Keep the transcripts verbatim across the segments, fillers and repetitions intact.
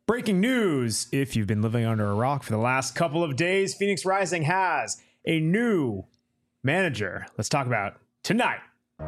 Breaking news. If you've been living under a rock for the last couple of days, Phoenix Rising has a new manager. Let's talk about tonight.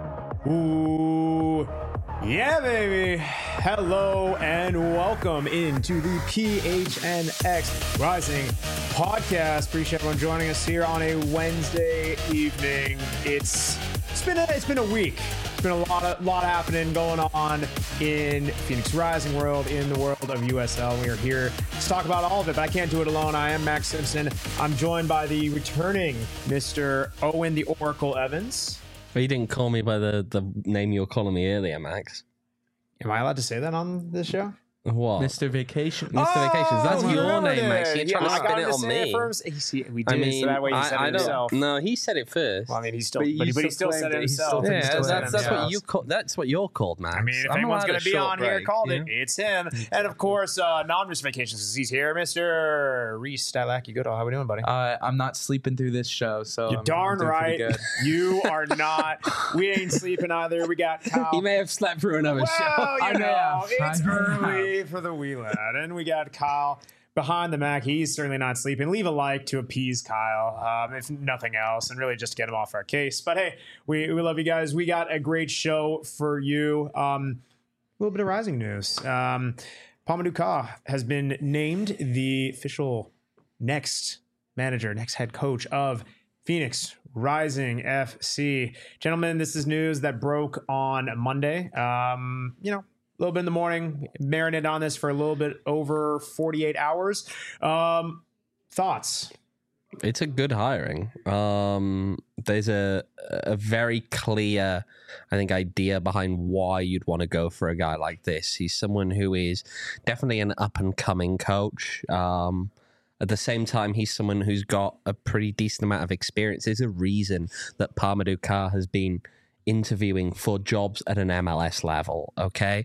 Ooh, yeah, baby. Hello and welcome into the P H N X Rising podcast. Appreciate everyone joining us here on a Wednesday evening. It's it's been a, it's been a week. It's been a lot of lot happening going on in Phoenix Rising world, in the world of U S L. We are here to talk about all of it, but I can't do it alone. I am Max Simpson. I'm joined by the returning Mister Owen the Oracle Evans. But you didn't call me by the, the name you were calling me earlier, Max. Am I allowed to say that on this show? What? Mister Vacation. Mister Oh, Vacations. That's you your remembered name, Max. You're it. trying Yeah, to I spin got it him to on say me. it first. He, see, we did I it, mean, so that way he I, said I it don't. himself. No, he said it first. Well, I mean, he still, But but, you he, but he still still said it claimed it. He still himself. did. yeah, still that's, said that's, that's himself. what you call. That's what you're called, Max. I mean, if I'm anyone's allowed going a to be short on here break, called yeah? it, it's him. And of course, uh, non-Mister Vacations, because he's here, Mister Reese Stylaki. Good. How we doing, buddy? Uh, I'm not sleeping through this show, so You're I'm, darn I'm doing right. pretty good. You are not. We ain't sleeping either. We got Kyle. He may have slept through another show. Well, you I know, know. it's I know. early for the wee lad. And we got Kyle behind the Mac. He's certainly not sleeping. Leave a like to appease Kyle, um, if nothing else, and really just to get him off our case. But hey, we, we love you guys. We got a great show for you. Um, a little bit of Rising news. Um, Pamadou Ka has been named the official next manager, next head coach of Phoenix Rising F C. Gentlemen, this is news that broke on Monday. Um, you know, a little bit in the morning, marinated on this for a little bit over forty-eight hours. Um, thoughts? It's a good hiring. Um, there's a a very clear, I think, idea behind why you'd want to go for a guy like this. He's someone who is definitely an up and coming coach. Um, At the same time, he's someone who's got a pretty decent amount of experience. There's a reason that Pamadou Ka has been interviewing for jobs at an M L S level, okay?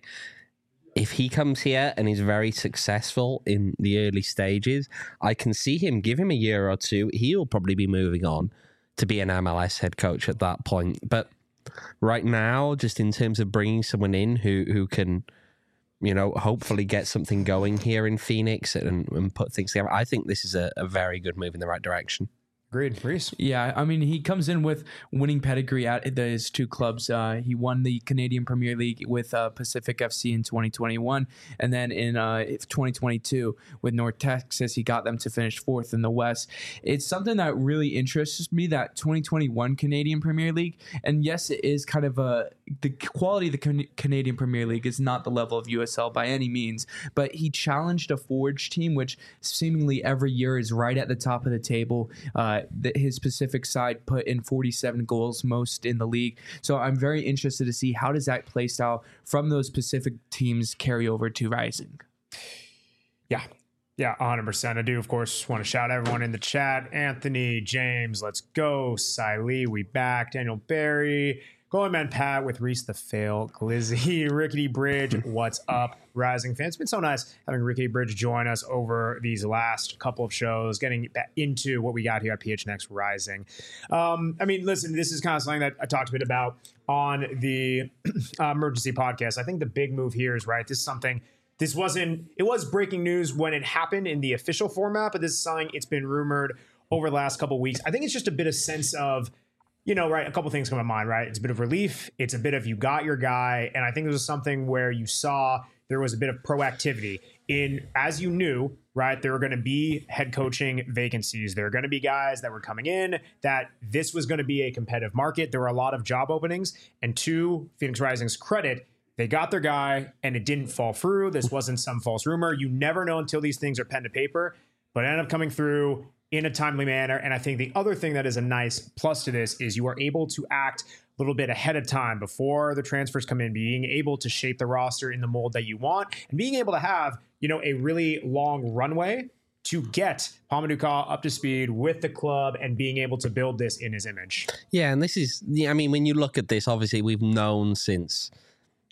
If he comes here and is very successful in the early stages, I can see him, give him a year or two, he'll probably be moving on to be an M L S head coach at that point. But right now, just in terms of bringing someone in who, who can... you know, hopefully get something going here in Phoenix and, and put things together. I think this is a, a very good move in the right direction. Agreed. Reese? Yeah, I mean, he comes in with winning pedigree at the, his two clubs. Uh, he won the Canadian Premier League with uh, Pacific F C in twenty twenty-one, and then in uh, twenty twenty-two with North Texas, he got them to finish fourth in the West. It's something that really interests me, that twenty twenty-one Canadian Premier League. And yes, it is kind of a the quality of the Can- Canadian Premier League is not the level of U S L by any means, but he challenged a Forge team, which seemingly every year is right at the top of the table. Uh, that his Pacific side put in forty-seven goals, most in the league. So I'm very interested to see how does that play style from those Pacific teams carry over to Rising. Yeah. Yeah, one hundred percent. I do, of course, want to shout everyone in the chat. Anthony, James, let's go. Siley, we back. Daniel Barry, Going Man Pat with Reese the Fail, Glizzy, Rickety Bridge, what's up, Rising fans? It's been so nice having Rickety Bridge join us over these last couple of shows, getting back into what we got here at P H N X Rising. Um, I mean, listen, this is kind of something that I talked a bit about on the uh, emergency podcast. I think the big move here is, right, this is something, this wasn't, it was breaking news when it happened in the official format, but this is something it's been rumored over the last couple of weeks. I think it's just a bit of sense of, you know, right, a couple things come to mind, right? It's a bit of relief. It's a bit of you got your guy. And I think this was something where you saw there was a bit of proactivity in, as you knew, right, there were going to be head coaching vacancies. There are going to be guys that were coming in, that this was going to be a competitive market. There were a lot of job openings. And to Phoenix Rising's credit, they got their guy and it didn't fall through. This wasn't some false rumor. You never know until these things are pen to paper, but it ended up coming through in a timely manner. And I think the other thing that is a nice plus to this is you are able to act a little bit ahead of time before the transfers come in, being able to shape the roster in the mold that you want and being able to have, you know, a really long runway to get Pamadou Ka up to speed with the club and being able to build this in his image. Yeah, and this is, yeah, I mean, when you look at this, obviously we've known since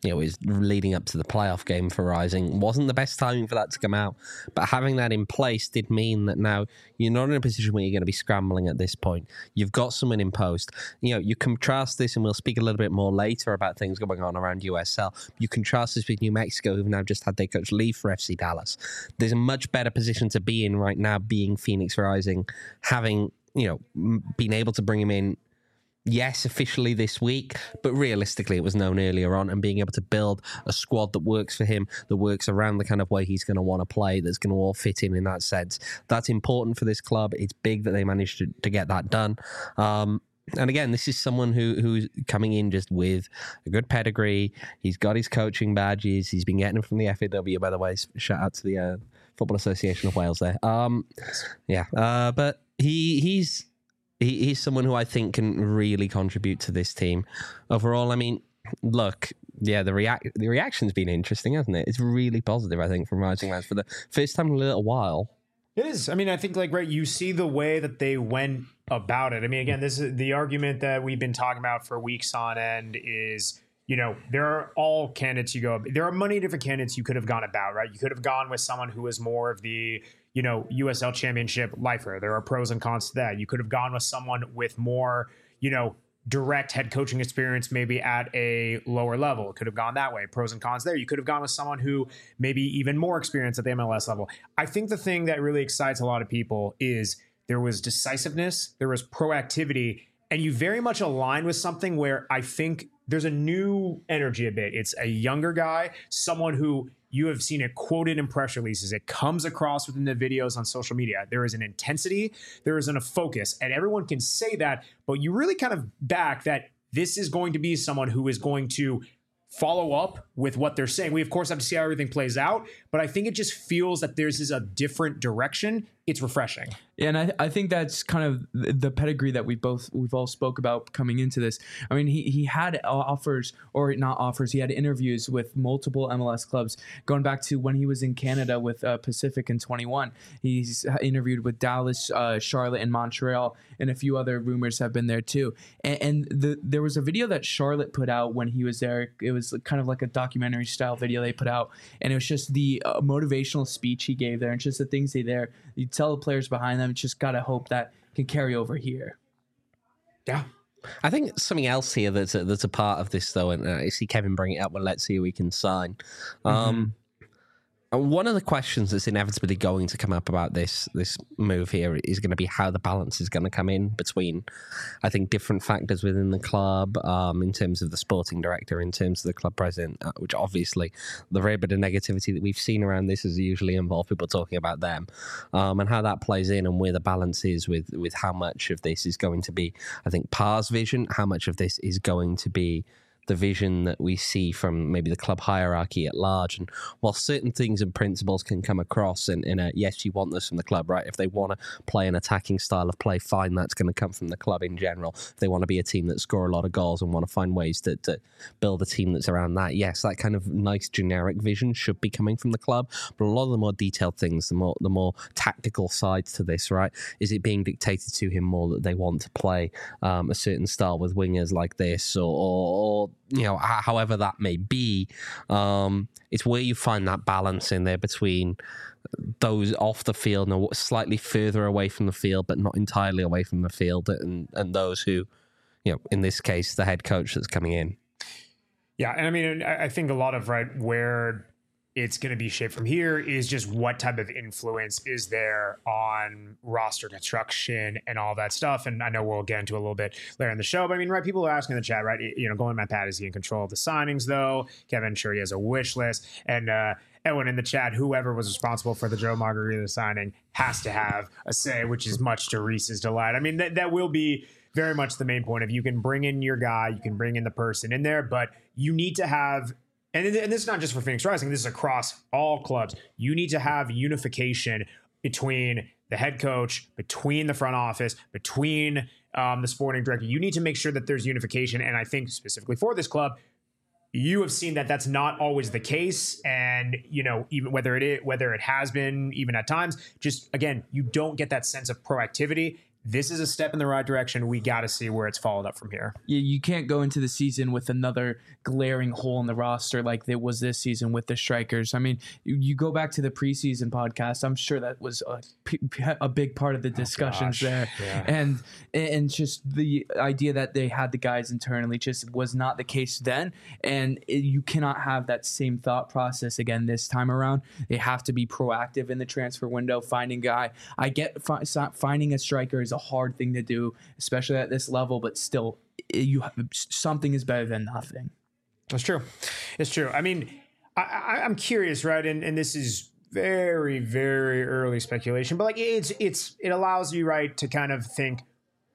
you know, is leading up to the playoff game for Rising. Wasn't the best timing for that to come out, but having that in place did mean that now you're not in a position where you're going to be scrambling at this point. You've got someone in post. You know, you contrast this, and we'll speak a little bit more later about things going on around U S L. You contrast this with New Mexico, who've now just had their coach leave for F C Dallas. There's a much better position to be in right now, being Phoenix Rising, having, you know, been able to bring him in. Yes, officially this week, but realistically it was known earlier on, and being able to build a squad that works for him, that works around the kind of way he's going to want to play, that's going to all fit in in that sense. That's important for this club. It's big that they managed to, to get that done. Um, and again, this is someone who who's coming in just with a good pedigree. He's got his coaching badges. He's been getting them from the F A W, by the way. Shout out to the uh, Football Association of Wales there. Um, yeah, uh, but he he's... He, he's someone who I think can really contribute to this team. Overall, I mean, look, yeah, the react the reaction's been interesting, hasn't it? It's really positive, I think, from Rising Lads for the first time in a little while. It is. I mean, I think, like, right, you see the way that they went about it. I mean, again, this is the argument that we've been talking about for weeks on end is, you know, there are all candidates you go, there are many different candidates you could have gone about, right? You could have gone with someone who is more of the, you know, U S L Championship lifer. There are pros and cons to that. You could have gone with someone with more, you know, direct head coaching experience, maybe at a lower level. It could have gone that way. Pros and cons there. You could have gone with someone who maybe even more experience at the M L S level. I think the thing that really excites a lot of people is there was decisiveness, there was proactivity, and you very much align with something where I think there's a new energy a bit. It's a younger guy, someone who you have seen it quoted in press releases. It comes across within the videos on social media. There is an intensity, there isn't a focus, and everyone can say that, but you really kind of back that this is going to be someone who is going to follow up with what they're saying. We, of course, have to see how everything plays out, but I think it just feels that there's is a different direction. It's refreshing. Yeah, and I, I think that's kind of the pedigree that we both we've all spoke about coming into this. I mean, he he had offers, or not offers. He had interviews with multiple M L S clubs going back to when he was in Canada with uh, Pacific in twenty-one. He's interviewed with Dallas, uh, Charlotte, and Montreal, and a few other rumors have been there too. And, and the, there was a video that Charlotte put out when he was there. It was kind of like a documentary style video they put out, and it was just the uh, motivational speech he gave there, and just the things he there. You tell the players behind them, just got to hope that can carry over here. Yeah. I think something else here that's a, that's a part of this, though, and I see Kevin bring it up, well, let's see who we can sign. Mm-hmm. Um, and one of the questions that's inevitably going to come up about this this move here is going to be how the balance is going to come in between, I think, different factors within the club, um, in terms of the sporting director, in terms of the club president, uh, which obviously the very bit of negativity that we've seen around this has usually involved people talking about them, um, and how that plays in and where the balance is with, with how much of this is going to be, I think, Parr's vision, how much of this is going to be the vision that we see from maybe the club hierarchy at large. And while certain things and principles can come across in, in a, yes, you want this from the club, right? If they want to play an attacking style of play, fine, that's going to come from the club in general. If they want to be a team that score a lot of goals and want to find ways to, to build a team that's around that, yes, that kind of nice generic vision should be coming from the club. But a lot of the more detailed things, the more the more tactical sides to this, right? Is it being dictated to him more that they want to play um, a certain style with wingers like this, or, or, or you know, however that may be, um, it's where you find that balance in there between those off the field and slightly further away from the field, but not entirely away from the field, and, and those who, you know, in this case, the head coach that's coming in. Yeah, and I mean, I think a lot of, right, where it's going to be shaped from here is just what type of influence is there on roster construction and all that stuff. And I know we'll get into a little bit later in the show, but I mean, right, people are asking in the chat, right, you know, going, Matt Pat, is he in control of the signings, though? Kevin, sure, he has a wish list. And uh, Edwin in the chat, whoever was responsible for the Joe Margarita signing has to have a say, which is much to Reese's delight. I mean, that that will be very much the main point. If you can bring in your guy, you can bring in the person in there, but you need to have, and this is not just for Phoenix Rising, this is across all clubs. You need to have unification between the head coach, between the front office, between um, the sporting director. You need to make sure that there's unification. And I think specifically for this club, you have seen that that's not always the case. And, you know, even whether it is, whether it has been even at times, just again, you don't get that sense of proactivity. this is a step in the right direction. We got to see where it's followed up from here. You, you can't go into the season with another glaring hole in the roster like it was this season with the strikers. I mean, you, you go back to the preseason podcast. I'm sure that was a, a big part of the discussions oh, there. Yeah. And and just the idea that they had the guys internally just was not the case then. And it, you cannot have that same thought process again this time around. They have to be proactive in the transfer window, finding guy. I get fi- finding a striker is a hard thing to do, especially at this level, but still you have, something is better than nothing. That's true. It's true. I mean, I, I, I'm curious, right? And and this is very, very early speculation, but like it's it's it allows you, right, to kind of think,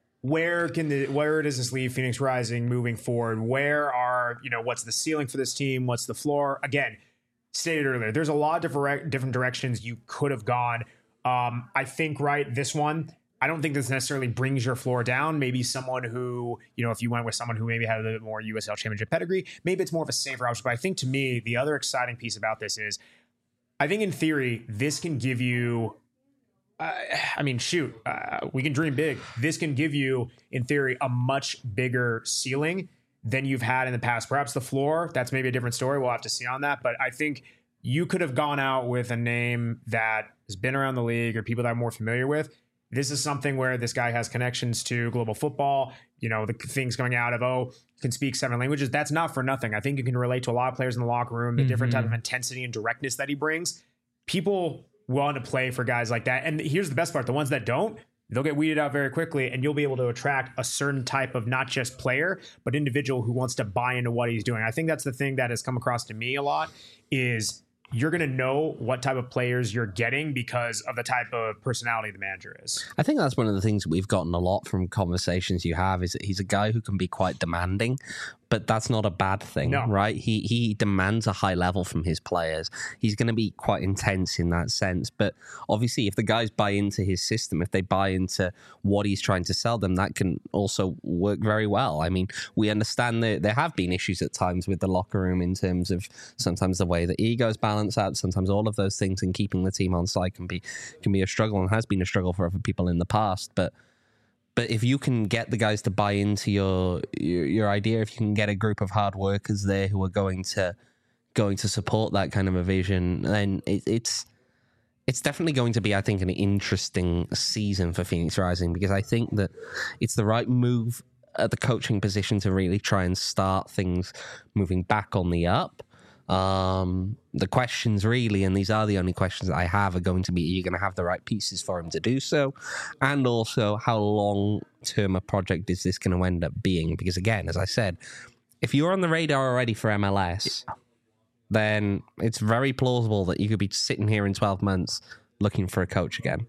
where can the where does this leave Phoenix Rising moving forward? Where are, you know, what's the ceiling for this team? What's the floor? Again, stated earlier, there's a lot of different different directions you could have gone. Um, I think, right, this one, I don't think this necessarily brings your floor down. Maybe someone who, you know, if you went with someone who maybe had a little bit more U S L Championship pedigree, maybe it's more of a safer option. But I think to me, the other exciting piece about this is, I think in theory, this can give you, uh, I mean, shoot, uh, we can dream big. This can give you, in theory, a much bigger ceiling than you've had in the past. Perhaps the floor, that's maybe a different story. We'll have to see on that. But I think you could have gone out with a name that has been around the league or people that I'm more familiar with. This is something where this guy has connections to global football, you know, the things coming out of, oh, can speak seven languages. That's not for nothing. I think you can relate to a lot of players in the locker room, the mm-hmm. different type of intensity and directness that he brings. People want to play for guys like that. And here's the best part. The ones that don't, they'll get weeded out very quickly, and you'll be able to attract a certain type of not just player, but individual who wants to buy into what he's doing. I think that's the thing that has come across to me a lot is you're going to know what type of players you're getting because of the type of personality the manager is. I think that's one of the things that we've gotten a lot from conversations you have is that he's a guy who can be quite demanding, but that's not a bad thing, no. right? He he demands a high level from his players. He's going to be quite intense in that sense. But obviously, if the guys buy into his system, if they buy into what he's trying to sell them, that can also work very well. I mean, we understand that there have been issues at times with the locker room in terms of sometimes the way that egos balance out, sometimes all of those things, and keeping the team on side can be can be a struggle and has been a struggle for other people in the past. But But if you can get the guys to buy into your, your your idea, if you can get a group of hard workers there who are going to going to support that kind of a vision, then it, it's it's definitely going to be, I think, an interesting season for Phoenix Rising, because I think that it's the right move at the coaching position to really try and start things moving back on the up. Um, the questions really, and these are the only questions that I have, are going to be, are you going to have the right pieces for him to do so? And also, how long-term a project is this going to end up being? Because again, as I said, if you're on the radar already for M L S, yeah. then it's very plausible that you could be sitting here in twelve months looking for a coach again.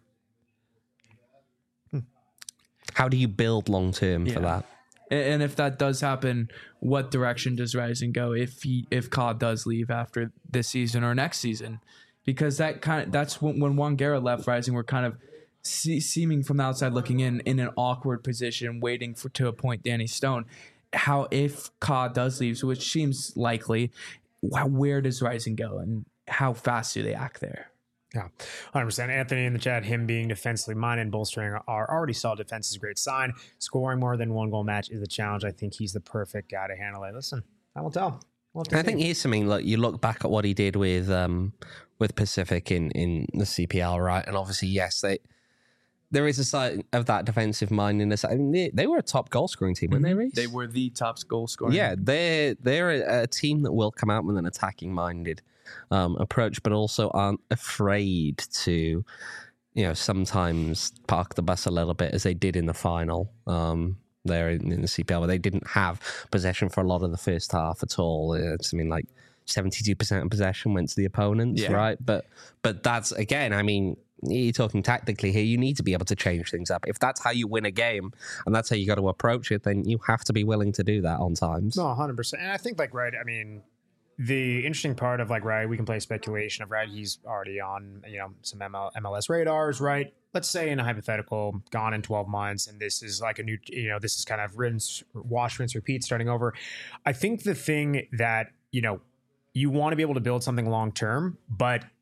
Hmm. How do you build long-term yeah. for that? And if that does happen, what direction does Rising go if he if C O D does leave after this season or next season? Because that kind of that's when, when Juan Guerra left Rising, we're kind of see, seeming from the outside looking in in an awkward position, waiting for to appoint Danny Stone. How if C O D does leave, which seems likely, where does Rising go and how fast do they act there? Yeah, one hundred percent. Anthony in the chat, him being defensively minded and bolstering our already solid defense is a great sign. Scoring more than one goal match is a challenge. I think he's the perfect guy to handle it. Listen, I will tell. We'll I think here's something, look, you look back at what he did with um, with Pacific in, in the C P L, right? And obviously, yes, they there is a side of that defensive mindedness. I mean, they, they were a top goal scoring team, weren't they, Reece? They were the top goal scoring. Yeah, they're, they're a, a team that will come out with an attacking minded Um, approach, but also aren't afraid to, you know, sometimes park the bus a little bit, as they did in the final um, there in, in the C P L, where they didn't have possession for a lot of the first half at all. It's, I mean, like seventy-two percent of possession went to the opponents, yeah. right? But but that's, again, I mean, you're talking tactically here, you need to be able to change things up. If that's how you win a game and that's how you got to approach it, then you have to be willing to do that on times. No, one hundred percent. And I think, like, right, I mean, the interesting part of, like, right, we can play speculation of, right, he's already on, you know, some M L, M L S radars, right? Let's say in a hypothetical, gone in twelve months, and this is like a new, you know, this is kind of rinse, wash, rinse, repeat, starting over. I think the thing that, you know, you want to be able to build something long term, but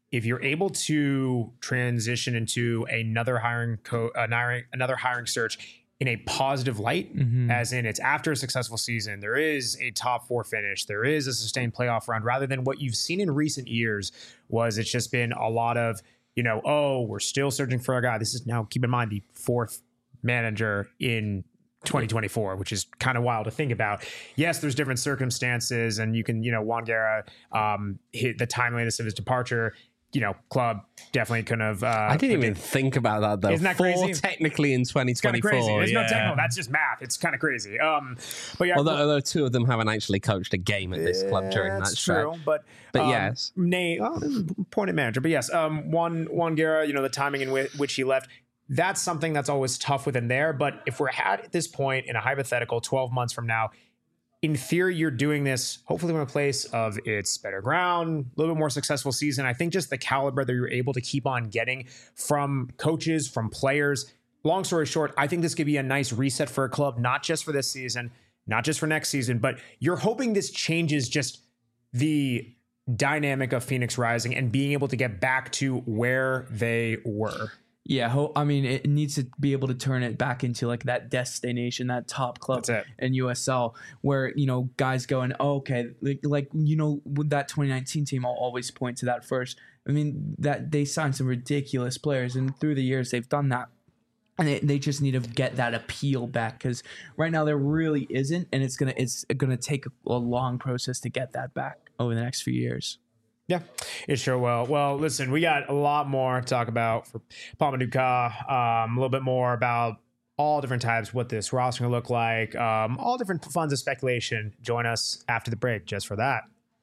if you're able to transition into another hiring co- another, another hiring search in a positive light, mm-hmm. as in it's after a successful season, there is a top four finish, there is a sustained playoff run, rather than what you've seen in recent years was it's just been a lot of, you know, oh, we're still searching for a guy. This is now, keep in mind, the fourth manager in twenty twenty-four, which is kind of wild to think about. Yes, there's different circumstances, and you can, you know, Juan Guerra, um, hit the timeliness of his departure. You know, club definitely couldn't have. Uh, I didn't even think about that though. Isn't that Four crazy? Technically in twenty twenty-four. It's kind of crazy. There's yeah. no technical. That's just math. It's kind of crazy. Um, but yeah, although, although two of them haven't actually coached a game at this club during that that's stretch. true. But but um, yes, Nate, well, appointed manager. But yes, um, Juan Juan Guerra. You know, the timing in whi- which he left. That's something that's always tough within there. But if we're at this point in a hypothetical twelve months from now, in theory, you're doing this hopefully from a place of it's better ground, a little bit more successful season. I think just the caliber that you're able to keep on getting from coaches, from players. Long story short, I think this could be a nice reset for a club, not just for this season, not just for next season, but you're hoping this changes just the dynamic of Phoenix Rising and being able to get back to where they were. Yeah, ho- I mean, it needs to be able to turn it back into like that destination, that top club in U S L, where, you know, guys going, oh, okay, like, like, you know, with that twenty nineteen team, I'll always point to that first. I mean, that they signed some ridiculous players, and through the years they've done that. And they, they just need to get that appeal back, because right now there really isn't, and it's gonna it's gonna take a, a long process to get that back over the next few years. Yeah, it sure will. Well, listen, we got a lot more to talk about for Paul Maduka, um, a little bit more about all different types, what this roster will look like, um, all different funds of speculation. Join us after the break just for that.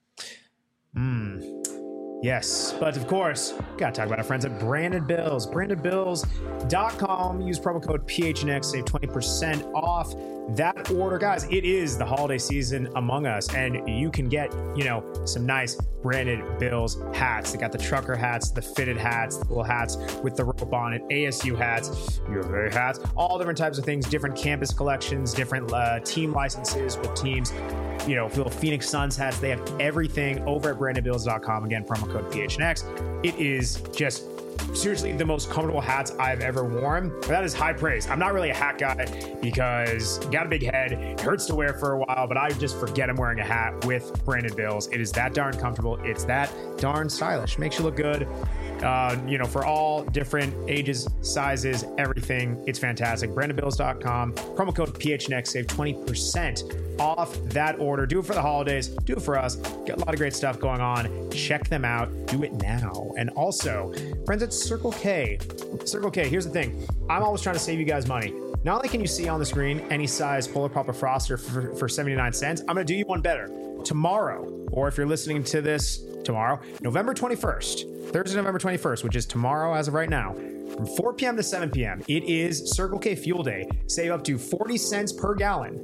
Hmm. Yes, but of course, got to talk about our friends at Branded Bills. branded bills dot com. Use promo code P H N X, save twenty percent off that order. Guys, it is the holiday season among us, and you can get, you know, some nice Branded Bills hats. They got the trucker hats, the fitted hats, the little hats with the rope on it, A S U hats, U of A hats, all different types of things, different campus collections, different uh, team licenses with teams. You know, little Phoenix Suns hats. They have everything over at branded bills dot com. Again, promo code P H N X. It is just seriously the most comfortable hats I've ever worn. That is high praise. I'm not really a hat guy because you got a big head. It hurts to wear for a while, but I just forget I'm wearing a hat with Branded Bills. It is that darn comfortable. It's that darn stylish. Makes you look good. Uh, you know, for all different ages, sizes, everything. It's fantastic. branded bills dot com. Promo code P H N X. Save twenty percent off that order. Do it for the holidays. Do it for us. Got a lot of great stuff going on. Check them out. Do it now. And also, friends at Circle K. Circle K, here's the thing. I'm always trying to save you guys money. Not only can you see on the screen any size Polar Pop or Froster for, for seventy-nine cents, I'm going to do you one better. Tomorrow, or if you're listening to this tomorrow, November twenty-first, Thursday, November twenty-first, which is tomorrow as of right now, from four p.m. to seven p.m., it is Circle K Fuel Day. Save up to forty cents per gallon.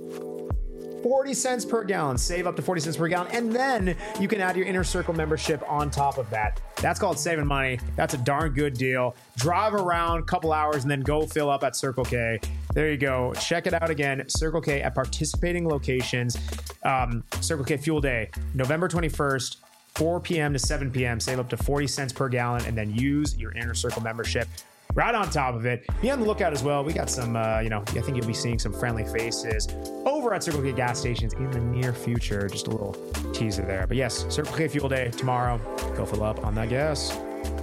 forty cents per gallon. Save up to forty cents per gallon. And then you can add your Inner Circle membership on top of that. That's called saving money. That's a darn good deal. Drive around a couple hours and then go fill up at Circle K. There you go. Check it out again. Circle K at participating locations. Um, Circle K Fuel Day, November twenty-first, four p.m. to seven p.m. Save up to forty cents per gallon and then use your Inner Circle membership. Right on top of it. Be on the lookout as well. We got some, uh, you know, I think you'll be seeing some friendly faces over at Circle K gas stations in the near future. Just a little teaser there. But yes, Circle K Fuel Day tomorrow. Go fill up on that gas.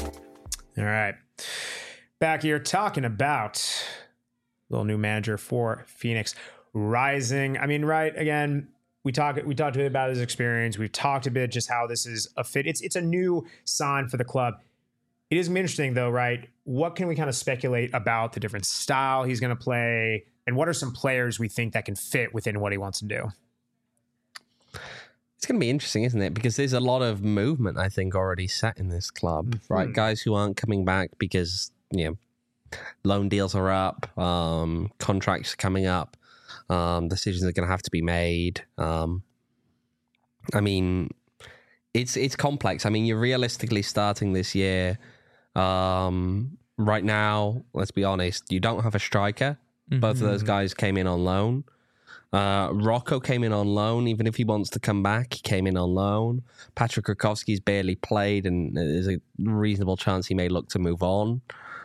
All right. Back here talking about little new manager for Phoenix Rising. I mean, right, again, we talked we talked a bit about his experience. We've talked a bit just how this is a fit. It's it's a new sign for the club. It is interesting, though, right? What can we kind of speculate about the different style he's going to play? And what are some players we think that can fit within what he wants to do? It's going to be interesting, isn't it? Because there's a lot of movement, I think, already set in this club, mm-hmm. right? Guys who aren't coming back because, you know, loan deals are up, um, contracts are coming up, um, decisions are going to have to be made. Um, I mean, it's it's complex. I mean, you're realistically starting this year. Um, right now, let's be honest, you don't have a striker. Mm-hmm. Both of those guys came in on loan. Uh, Rocco came in on loan. Even if he wants to come back, he came in on loan. Patrick Krakowski's barely played, and there's a reasonable chance he may look to move on.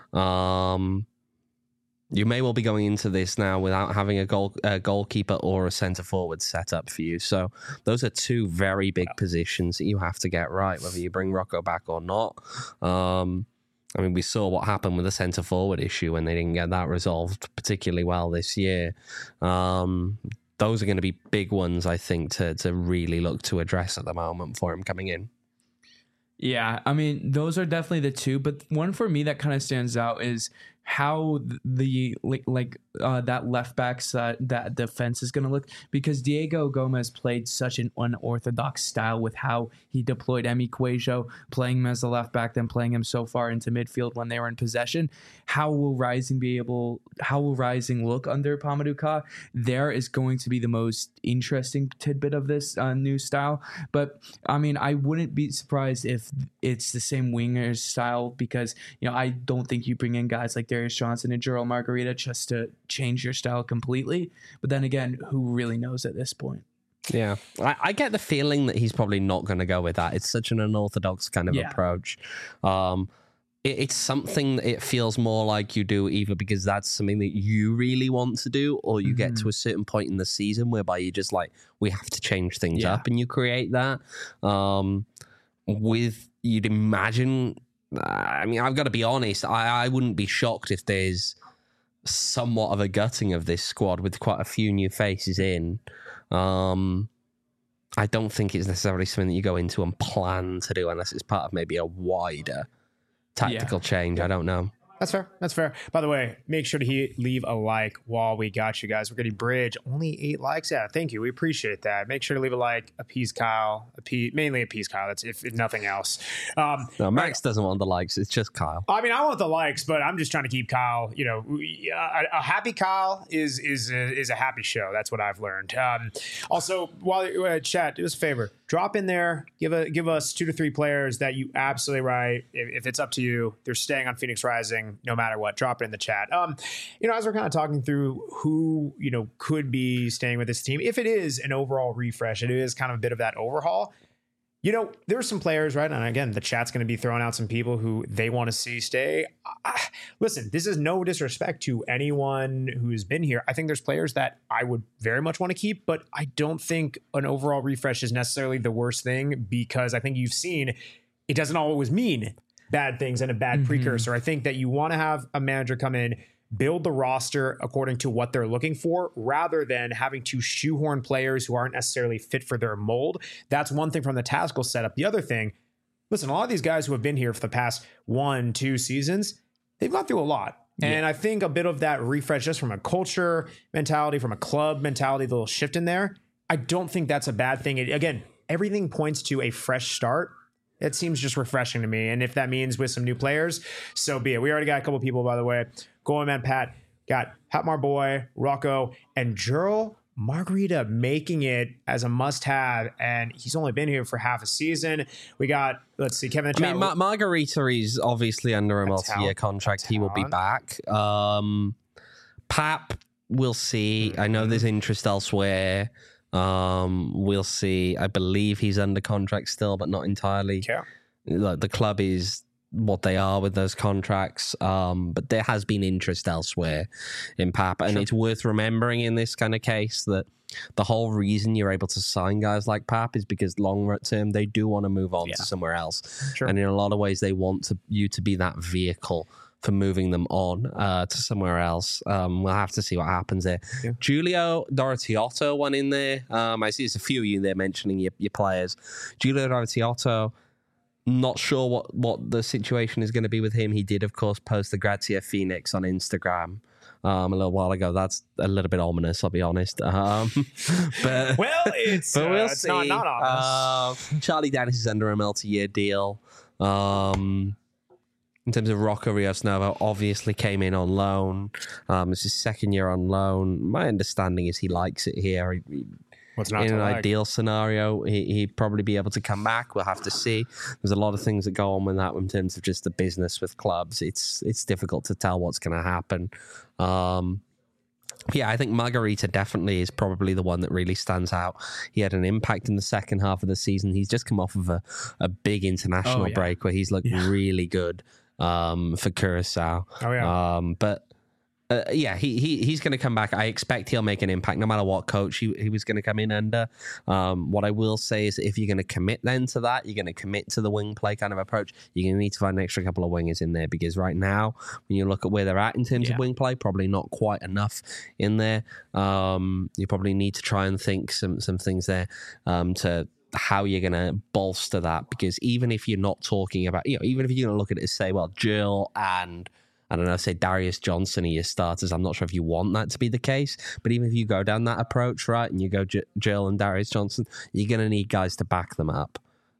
Um, you may well be going into this now without having a goal a goalkeeper or a centre forward set up for you. So those are two very big positions that you have to get right, whether you bring Rocco back or not. Um, I mean, we saw what happened with the centre forward issue when they didn't get that resolved particularly well this year. Um, those are going to be big ones, I think, to to really look to address at the moment for him coming in. Yeah, I mean, those are definitely the two. But one for me that kind of stands out is how the like, like uh, that left back uh, that defense is going to look, because Diego Gomez played such an unorthodox style with how he deployed Emi Cuejo, playing him as a left back, then playing him so far into midfield when they were in possession. How will Rising be able? How will Rising look under Pamadou Ka? There is going to be the most interesting tidbit of this uh, new style. But I mean, I wouldn't be surprised if it's the same wingers style, because you know I don't think you bring in guys like Darius Johnson and Gerald Margarita just to change your style completely. But then again, who really knows at this point? Yeah, I, I get the feeling that he's probably not going to go with that. It's such an unorthodox kind of Yeah. approach. Um, it, it's something that it feels more like you do either because that's something that you really want to do, or you mm-hmm. get to a certain point in the season whereby you're just like, we have to change things yeah. up, and you create that. Um, with, you'd imagine... I mean, I've got to be honest, I, I wouldn't be shocked if there's somewhat of a gutting of this squad with quite a few new faces in. Um, I don't think it's necessarily something that you go into and plan to do unless it's part of maybe a wider tactical yeah. change. I don't know. That's fair. That's fair. By the way, make sure to he- leave a like while we got you guys. We're getting Bridge. Only eight likes. Yeah, thank you. We appreciate that. Make sure to leave a like. Appease Kyle. Appease, mainly appease Kyle. That's if, if nothing else. Um, no, Max right. doesn't want the likes. It's just Kyle. I mean, I want the likes, but I'm just trying to keep Kyle. You know, a, a happy Kyle is is a, is a happy show. That's what I've learned. Um, also, while you're uh, chat, do us a favor. Drop in there. Give a give us two to three players that you absolutely right. If, if it's up to you, they're staying on Phoenix Rising no matter what. Drop it in the chat. Um, you know, as we're kind of talking through who you know could be staying with this team, if it is an overall refresh, it is kind of a bit of that overhaul. You know, there are some players, right? And again, the chat's going to be throwing out some people who they want to see stay. Uh, listen, this is no disrespect to anyone who's been here. I think there's players that I would very much want to keep, but I don't think an overall refresh is necessarily the worst thing, because I think you've seen it doesn't always mean bad things and a bad mm-hmm. precursor. I think that you want to have a manager come in, build the roster according to what they're looking for, rather than having to shoehorn players who aren't necessarily fit for their mold. That's one thing from the tactical setup. The other thing, listen, a lot of these guys who have been here for the past one, two seasons, they've gone through a lot. Yeah. And I think a bit of that refresh just from a culture mentality, from a club mentality, the little shift in there, I don't think that's a bad thing. It, again, everything points to a fresh start. It seems just refreshing to me. And if that means with some new players, so be it. We already got a couple people, by the way. Going Man Pat, got Pat Marboy, Rocco, and Gerald Margarita making it as a must-have, and he's only been here for half a season. We got, let's see, Kevin. I mean, Ma- Margarita is obviously under a, a multi-year talent, contract. He will be back. Um, Pap, we'll see. Mm-hmm. I know there's interest elsewhere. Um, we'll see. I believe he's under contract still, but not entirely. Yeah. Like, the club is what they are with those contracts, um, but there has been interest elsewhere in Pap, and sure. it's worth remembering in this kind of case that the whole reason you're able to sign guys like Pap is because long term they do want to move on yeah. to somewhere else, sure. and in a lot of ways they want to, you to be that vehicle for moving them on uh, to somewhere else. Um, we'll have to see what happens there. Yeah. Julio Doratiotto went in there. Um, I see there's a few of you there mentioning your, your players. Julio Doratiotto, not sure what, what the situation is going to be with him. He did, of course, post the Grazia Phoenix on Instagram um, a little while ago. That's a little bit ominous, I'll be honest. Um, but well, it's, but we'll uh, it's see. not, not ominous. Uh, Charlie Dennis is under a multi-year deal. Um, in terms of Rocco Rios Novo, obviously came in on loan. Um, it's his second year on loan. My understanding is he likes it here. He, he, What's not in an like? ideal scenario, he, he'd probably be able to come back. We'll have to see. There's a lot of things that go on with that in terms of just the business with clubs. It's it's difficult to tell what's going to happen. Um, Yeah, I think Margarita definitely is probably the one that really stands out. He had an impact in the second half of the season. He's just come off of a, a big international Oh, yeah. break where he's looked Yeah. really good um, for Curacao. Oh, yeah. Um, but uh, yeah, he, he he's going to come back. I expect he'll make an impact no matter what coach he, he was going to come in under. Um, what I will say is if you're going to commit then to that, you're going to commit to the wing play kind of approach, you're going to need to find an extra couple of wingers in there because right now, when you look at where they're at in terms Yeah. of wing play, probably not quite enough in there. Um, you probably need to try and think some, some things there um, to how you're going to bolster that because even if you're not talking about, you know, even if you're going to look at it and say, well, Jill and I don't know, say Darius Johnson are your starters. I'm not sure if you want that to be the case, but even if you go down that approach, right, and you go J- Jill and Darius Johnson, you're going to need guys to back them up.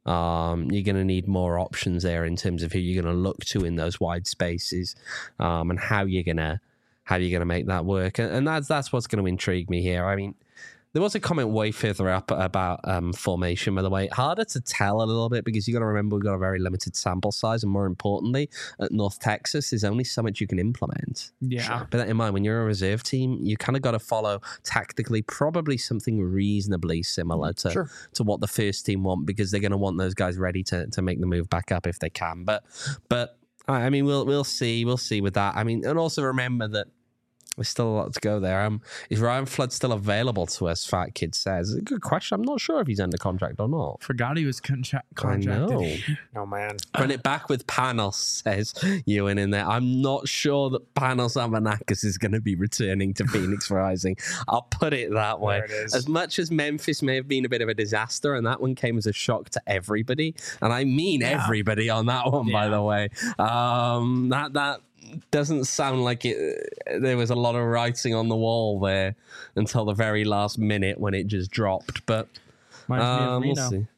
Um, you're going to need more options there in terms of who you're going to look to in those wide spaces um, and how you're going to how you're going to make that work. And, and that's that's what's going to intrigue me here. I mean, there was a comment way further up about um, formation, by the way. Harder to tell a little bit because you got to remember we've got a very limited sample size, and more importantly, at North Texas, there's only so much you can implement. Yeah. Bear that in mind, when you're a reserve team, you kind of got to follow tactically probably something reasonably similar to, Sure. to what the first team want because they're going to want those guys ready to, to make the move back up if they can. But but I mean, we'll we'll see, we'll see with that. I mean, and also remember that. There's still a lot to go there. Um, is Ryan Flood still available to us? Fat Kid says. It's a good question. I'm not sure if he's under contract or not. Forgot he was contra- I contracted. know. Oh, man. Run it back with Panos, says Ewan in there. I'm not sure that Panos Amanakis is going to be returning to Phoenix Rising. I'll put it that way. There it is. As much as Memphis may have been a bit of a disaster, and that one came as a shock to everybody, and I mean Yeah. everybody on that one, by Yeah. the way. Um, that that doesn't sound like it. There was a lot of writing on the wall there until the very last minute when it just dropped. But Reminds me um, of we'll Reno. see.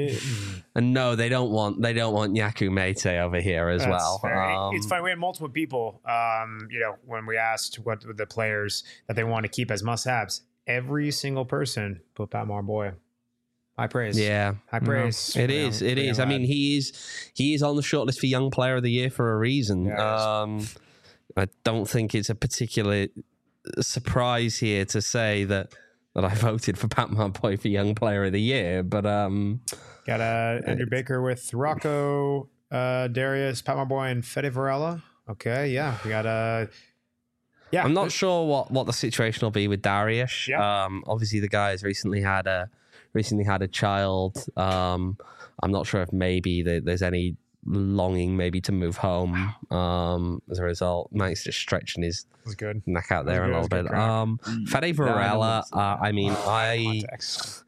Uh, And no, they don't want they don't want Yaku Mete over here as That's well. fair. Um, It's funny. We had multiple people, um, you know, when we asked what the players that they want to keep as must-haves, every single person put Pat Marboy. High praise. Yeah, High praise. it for is. young- It for is. young I mean, lad. he is he is on the shortlist for Young Player of the Year for a reason. Yeah, he is. um, I don't think it's a particular surprise here to say that that I voted for Pat Marboy for Young Player of the Year, but um, Got uh, Andrew Baker with Rocco, uh, Darius, Pat Marboy, and Fede Varela. Okay, yeah. We got uh, yeah. I'm not sure what, what the situation will be with Darius. Yeah. Um, obviously, the guy has recently had a recently had a child. Um, I'm not sure if maybe there, there's any longing maybe to move home um, as a result. Mike's just stretching his was good. neck out there That a was little good, bit. that was Um, Fede No, I don't Varela, want to see uh, I mean, I Context.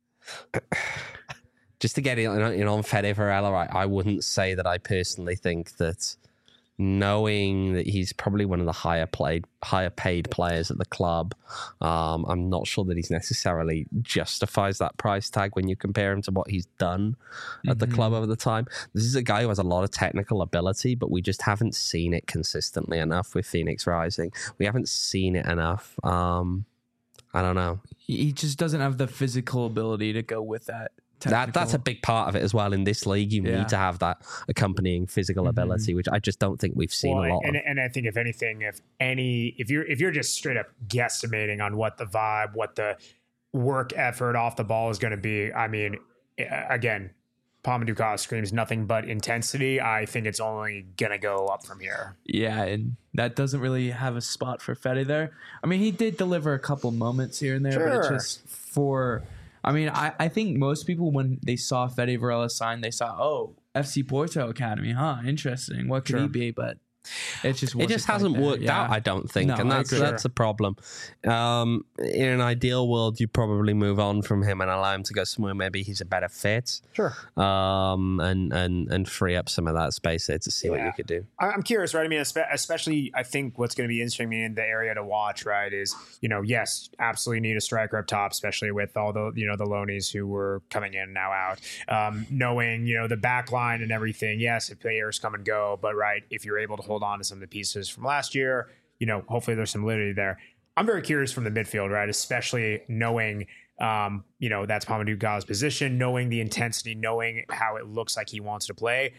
just to get in, in on Fede Varela, I, I wouldn't say that I personally think that knowing that he's probably one of the higher played, higher paid players at the club, um, I'm not sure that he's necessarily justifies that price tag when you compare him to what he's done at the Mhm. club over the time. This is a guy who has a lot of technical ability, but we just haven't seen it consistently enough with Phoenix Rising. We haven't seen it enough. Um, I don't know. He he just doesn't have the physical ability to go with that. That that's a technical- big part of it as well. In this league, you Yeah. need to have that accompanying physical Mhm. ability, which I just don't think we've seen Well, a lot and, of. and I think if anything, if any, if you're if you're just straight up guesstimating on what the vibe, what the work effort off the ball is going to be, I mean, a- again, Palma Dukas screams nothing but intensity. I think it's only going to go up from here. Yeah, and that doesn't really have a spot for Fede there. I mean, he did deliver a couple moments here and there, but it's Sure. just for. I mean, I, I think most people, when they saw Fede Varela sign, they saw, oh, F C Porto Academy, huh? Interesting. What could he Sure. be? But it just It wasn't just quite hasn't there. worked Yeah. out, I don't think, No, and I that's agree. that's the problem. Um, in an ideal world, you probably move on from him and allow him to go somewhere maybe he's a better fit, Sure. um, and and and free up some of that space there to see what Yeah. you could do. I- I'm curious, right? I mean, espe- especially, I think what's going to be interesting in the area to watch, right, is, you know, yes, absolutely need a striker up top, especially with all the, you know, the loanies who were coming in, now out. Um, knowing, you know, the back line and everything, yes, if players come and go, but, right, if you're able to hold on to some of the pieces from last year, you know, hopefully there's some validity there. I'm very curious from the midfield, right, especially knowing, um, you know, that's Pamadou Ga's position, knowing the intensity, knowing how it looks like he wants to play.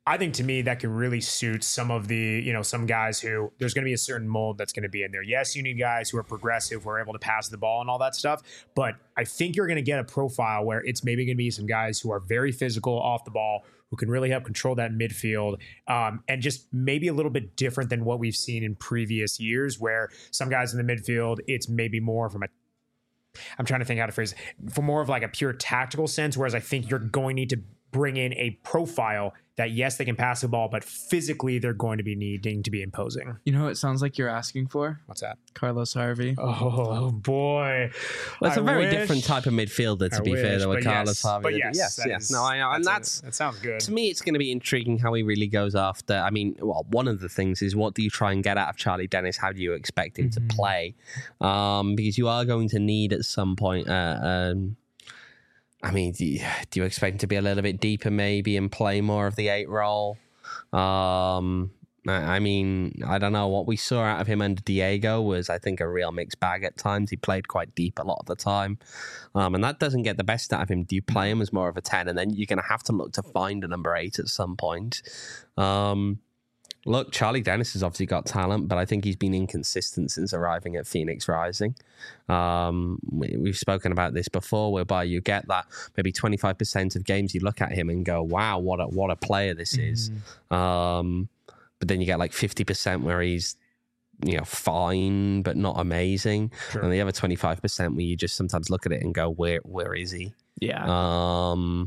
I think to me that can really suit some of the, you know, some guys who there's going to be a certain mold that's going to be in there. Yes, you need guys who are progressive, who are able to pass the ball and all that stuff. But I think you're going to get a profile where it's maybe going to be some guys who are very physical off the ball, who can really help control that midfield, um, and just maybe a little bit different than what we've seen in previous years, where some guys in the midfield, it's maybe more from a I'm trying to think how to phrase it, for more of like a pure tactical sense, whereas I think you're going to need to bring in a profile that, yes, they can pass the ball, but physically they're going to be needing to be imposing. You know what it sounds like you're asking for? What's that? Carlos Harvey. Oh, boy. Well, it's I a very wish. different type of midfielder, to I be wish, fair, though, with but Carlos yes, Harvey. but yes, yes, that yes. is- No, I know. And that's, a- that sounds good. to me, it's going to be intriguing how he really goes after. I mean, well, one of the things is what do you try and get out of Charlie Dennis? How do you expect him Mm-hmm. to play? Um, because you are going to need at some point. Uh, um, I mean, do you, do you expect him to be a little bit deeper, maybe, and play more of the eight role? Um, I I mean, I don't know. What we saw out of him under Diego was, I think, a real mixed bag at times. He played quite deep a lot of the time. Um, and that doesn't get the best out of him. Do you play him as more of a ten? And then you're going to have to look to find a number eight at some point. Um, look, Charlie Dennis has obviously got talent, but I think he's been inconsistent since arriving at Phoenix Rising. Um, we, we've spoken about this before, whereby you get that maybe twenty-five percent of games you look at him and go, wow, what a, what a player this is. Um, but then you get like fifty percent where he's, you know, fine, but not amazing. Sure. And the other twenty-five percent where you just sometimes look at it and go, where, where is he? Yeah. Um,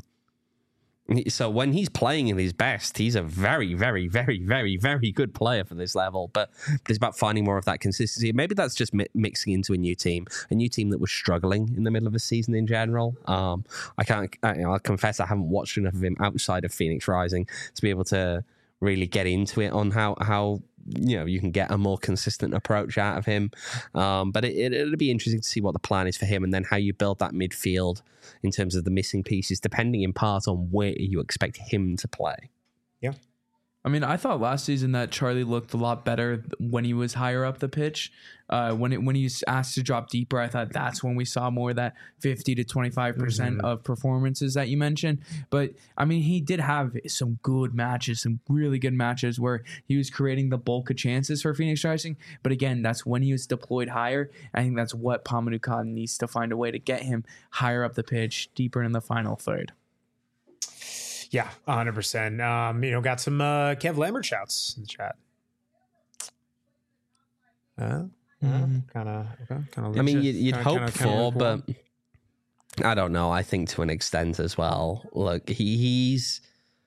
so when he's playing in his best, he's a very, very, very, very, very good player for this level. But it's about finding more of that consistency. Maybe that's just mi- mixing into a new team, a new team that was struggling in the middle of the season in general. Um, I can't. I, you know, I'll confess I haven't watched enough of him outside of Phoenix Rising to be able to really get into it on how how you know you can get a more consistent approach out of him. Um, but it, it, it'll be interesting to see what the plan is for him, and then how you build that midfield in terms of the missing pieces, depending in part on where you expect him to play. Yeah. I mean, I thought last season that Charlie looked a lot better when he was higher up the pitch. Uh, when it when he's asked to drop deeper, I thought that's when we saw more of that fifty to twenty-five percent Mhm. of performances that you mentioned. But I mean, he did have some good matches, some really good matches where he was creating the bulk of chances for Phoenix Rising. But again, that's when he was deployed higher. I think that's what Pamadou needs to find a way to get him higher up the pitch, deeper in the final third. Yeah, one hundred percent. Um, you know, got some uh, Kev Lambert shouts in the chat. Uh, Mhm. Kind of, okay, kind of. I mean, you'd, you'd kinda- hope kinda- for, kinda but I don't know. I think to an extent as well. Look, he, he's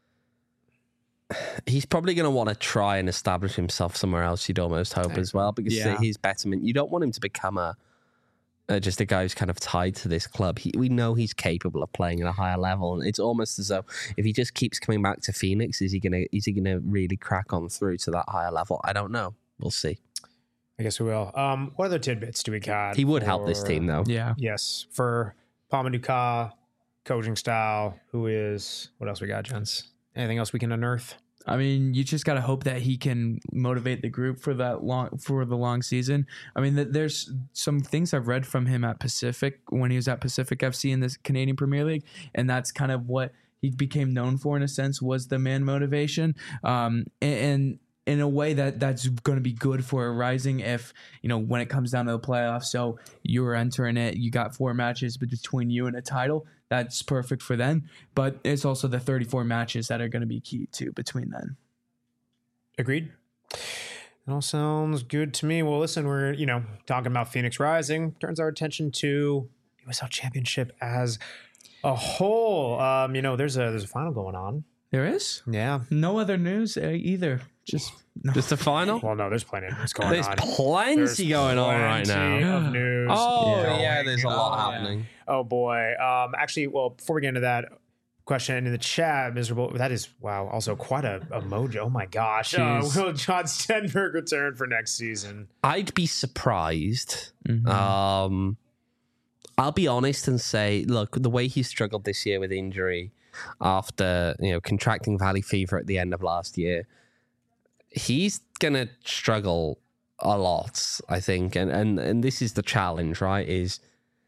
he's probably going to want to try and establish himself somewhere else. You'd almost hope as well, because Yeah. his betterment. You don't want him to become a uh, just a guy who's kind of tied to this club. He, we know he's capable of playing at a higher level, and it's almost as though if he just keeps coming back to Phoenix, is he gonna is he gonna really crack on through to that higher level? I don't know. We'll see. I guess we will. Um, what other tidbits do we got? He would help this for- team though. Yeah. Yes, for Pamadou, coaching style. Who is? What else we got, gents? Anything else we can unearth? I mean, you just got to hope that he can motivate the group for that long for the long season. I mean, th- there's some things I've read from him at Pacific when he was at Pacific F C in the Canadian Premier League, and that's kind of what he became known for in a sense, was the man motivation. Um, and, and in a way that that's going to be good for Rising if, you know, when it comes down to the playoffs. So you're entering it, you got four matches between you and a title. That's perfect for them. But it's also the thirty-four matches that are going to be key too between them. Agreed. That all sounds good to me. Well, listen, we're, you know, talking about Phoenix Rising. Turns our attention to U S L Championship as a whole. Um, you know, there's a there's a final going on. There is Yeah. no other news uh, either. Just no. Just a final. Well, no, there's plenty of news going There's on. plenty There's going on right plenty now. of news. Oh Yeah. yeah, there's a lot Oh, yeah. happening. Oh boy. Um, actually, well, before we get into that question in the chat, miserable. That is wow. Also, quite a, a mojo. Oh my gosh. Uh, Jeez. will John Stenberg return for next season? I'd be surprised. Mhm. Um, I'll be honest and say, look, the way he struggled this year with injury after you know contracting valley fever at the end of last year, he's gonna struggle a lot, I think. And and and this is the challenge, right? Is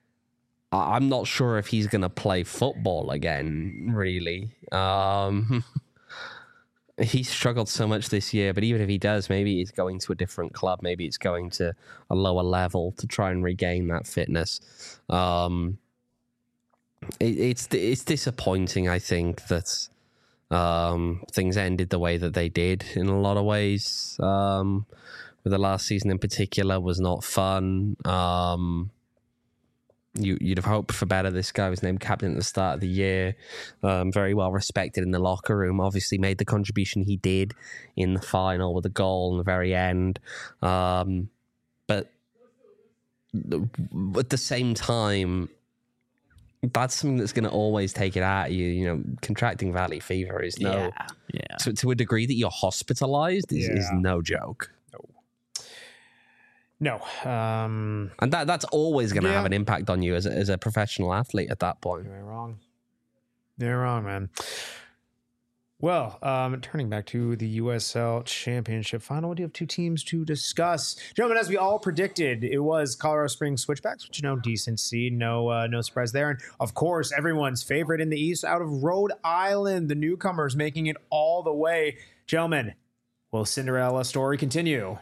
I- I'm not sure if he's gonna play football again, really. Um, He struggled so much this year, but even if he does, maybe he's going to a different club. Maybe it's going to a lower level to try and regain that fitness. Um, it, it's it's disappointing, I think, that um, things ended the way that they did in a lot of ways. Um, with the last season in particular was not fun. Um, You, you'd have hoped for better. This guy was named captain at the start of the year. Um, very well respected in the locker room. Obviously made the contribution he did in the final with a goal in the very end. Um, but at the same time, that's something that's going to always take it out of you. You know, contracting valley fever is no... Yeah. yeah. To, to a degree that you're hospitalized is, Yeah. is no joke. No. Um, And that that's always going to Yeah. have an impact on you as a, as a professional athlete at that point. You're wrong. You're wrong, man. Well, um, turning back to the U S L Championship final, we do have two teams to discuss. Gentlemen, as we all predicted, it was Colorado Springs Switchbacks, which, you know, decent seed. No, uh, no surprise there. And, of course, everyone's favorite in the East out of Rhode Island, the newcomers making it all the way. Gentlemen, will Cinderella story continue?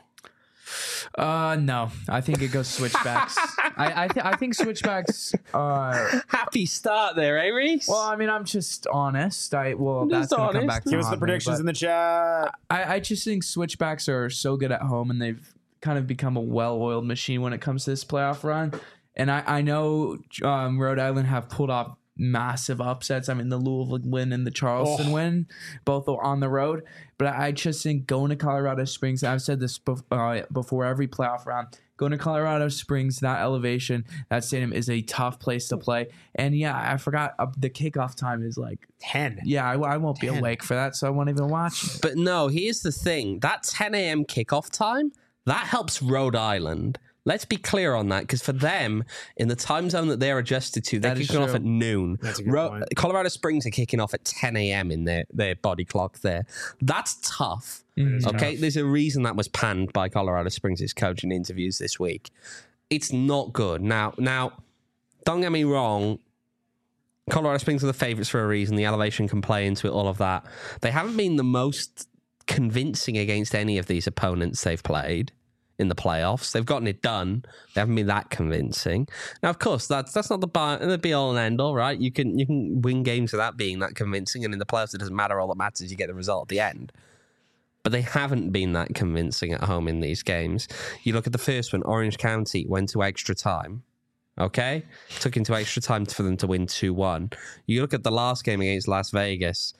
Uh, no, I think it goes Switchbacks. I I, th- I think Switchbacks are. Happy start there, eh, Reese? Well, I mean, I'm just honest. I well, that's Just gonna come honest. back to Give us the haunt me, predictions but in the chat. I, I just think Switchbacks are so good at home, and they've kind of become a well-oiled machine when it comes to this playoff run. And I I know um, Rhode Island have pulled off massive upsets. I mean, the Louisville win and the Charleston Oh. win, both are on the road. But I just think going to Colorado Springs, I've said this bef- uh, before every playoff round, going to Colorado Springs, that elevation, that stadium is a tough place to play. And yeah, I forgot uh, the kickoff time is like, ten. yeah, I, I won't be ten. awake for that, so I won't even watch it. But no, here's the thing. That ten a.m. kickoff time, that helps Rhode Island. Let's be clear on that, because for them, in the time zone that they're adjusted to, they're That is kicking off true. at noon. That's a good Ro- point. Colorado Springs are kicking off at ten a.m. in their, their body clock there. That's tough. Mhm. Okay, there's a reason that was panned by Colorado Springs' coach in interviews this week. It's not good. Now, now, don't get me wrong. Colorado Springs are the favourites for a reason. The elevation can play into it, all of that. They haven't been the most convincing against any of these opponents they've played in the playoffs. They've gotten it done. They haven't been that convincing. Now, of course, that's that's not the, bar, the be all and end all, right? You can you can win games without being that convincing, and in the playoffs, it doesn't matter. All that matters is you get the result at the end. But they haven't been that convincing at home in these games. You look at the first one, Orange County went to extra time. Okay? Took into extra time for them to win two one. You look at the last game against Las Vegas.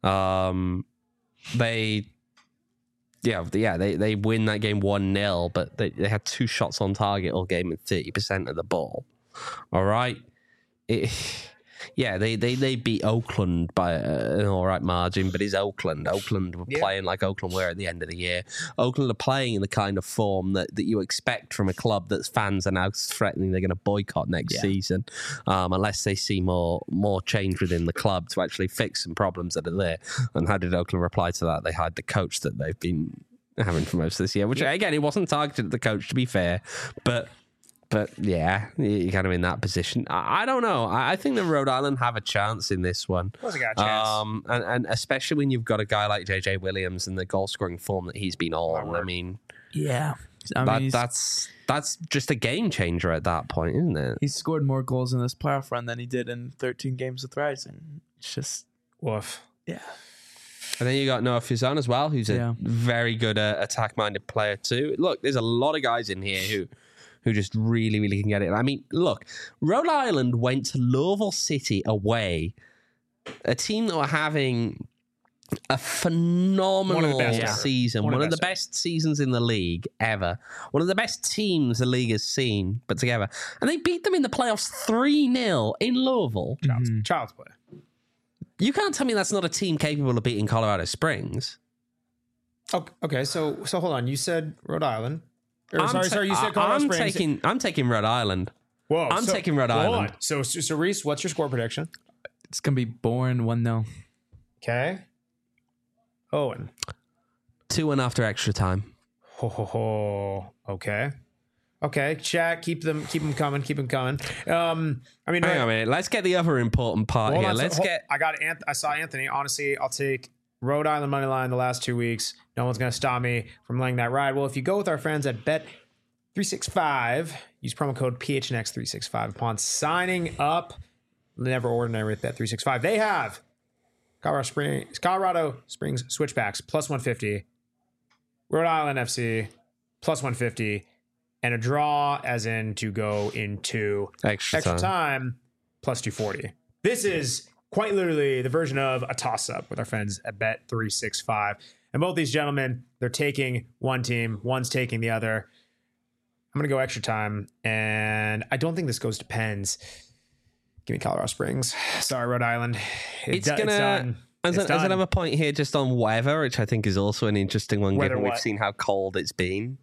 Um, they, yeah, yeah, they, they win that game one nil, but they, they had two shots on target all game and thirty percent of the ball. All right? It, yeah, they, they, they beat Oakland by an all right margin, but it's Oakland. Oakland were Yeah. playing like Oakland were at the end of the year. Oakland are playing in the kind of form that, that you expect from a club that's fans are now threatening they're going to boycott next Yeah. season, um, unless they see more more change within the club to actually fix some problems that are there. And how did Oakland reply to that? They hired the coach that they've been having for most of this year, which, again, it wasn't targeted at the coach, to be fair, but... But yeah, you're kind of in that position. I, I don't know. I, I think that Rhode Island have a chance in this one. Of course I got a chance. Um, and, and especially when you've got a guy like J J Williams and the goal scoring form that he's been on. I mean, Yeah. I mean, that, he's, that's that's just a game changer at that point, isn't it? he's scored more goals in this playoff run than he did in thirteen games with Rising. It's just, Woof. yeah. And then you got Noah Fizan as well, who's a Yeah. very good uh, attack-minded player too. Look, there's a lot of guys in here who who just really, really can get it. I mean, look, Rhode Island went to Louisville City away, a team that were having a phenomenal One of the best ever. season, One one, of of the the best seasons in the league ever, one of the best teams the league has seen put together. And they beat them in the playoffs three nil in Louisville. Child's, Mhm. child's play. You can't tell me that's not a team capable of beating Colorado Springs. Okay, okay, so so hold on. You said Rhode Island. Or, I'm sorry, ta- sorry. You said I- Colorado I'm Springs. taking I'm taking Rhode Island. Whoa, I'm so- taking Rhode hold Island. on. So, so, so Reese, what's your score prediction? It's going to be boring one nil. Okay. Owen. Two and after extra time. Ho ho ho. Okay. Okay. Chat. Keep them. Keep them coming. Keep them coming. Um. I mean, Hang on a minute. Let's get the other important part hold here. on, so- Let's hold- get. I got. Anth- I saw Anthony. Honestly, I'll take Rhode Island money line the last two weeks. No one's going to stop me from laying that ride. Well, if you go with our friends at Bet three sixty-five, use promo code P H N X three sixty-five upon signing up. Never ordinary with Bet three sixty-five. They have Colorado Springs, Colorado Springs switchbacks plus one fifty, Rhode Island F C plus one fifty, and a draw as in to go into Extra, extra time. time plus two forty. This is quite literally the version of a toss-up with our friends at Bet three sixty-five. And both these gentlemen, they're taking one team, one's taking the other. I'm going to go extra time, and I don't think this goes to Pens. Give me Colorado Springs. Sorry, Rhode Island. It It's do- going it's to... done. As, It's a, as done. another point here, just on weather, which I think is also an interesting one, Weather given we've what? seen how cold it's been.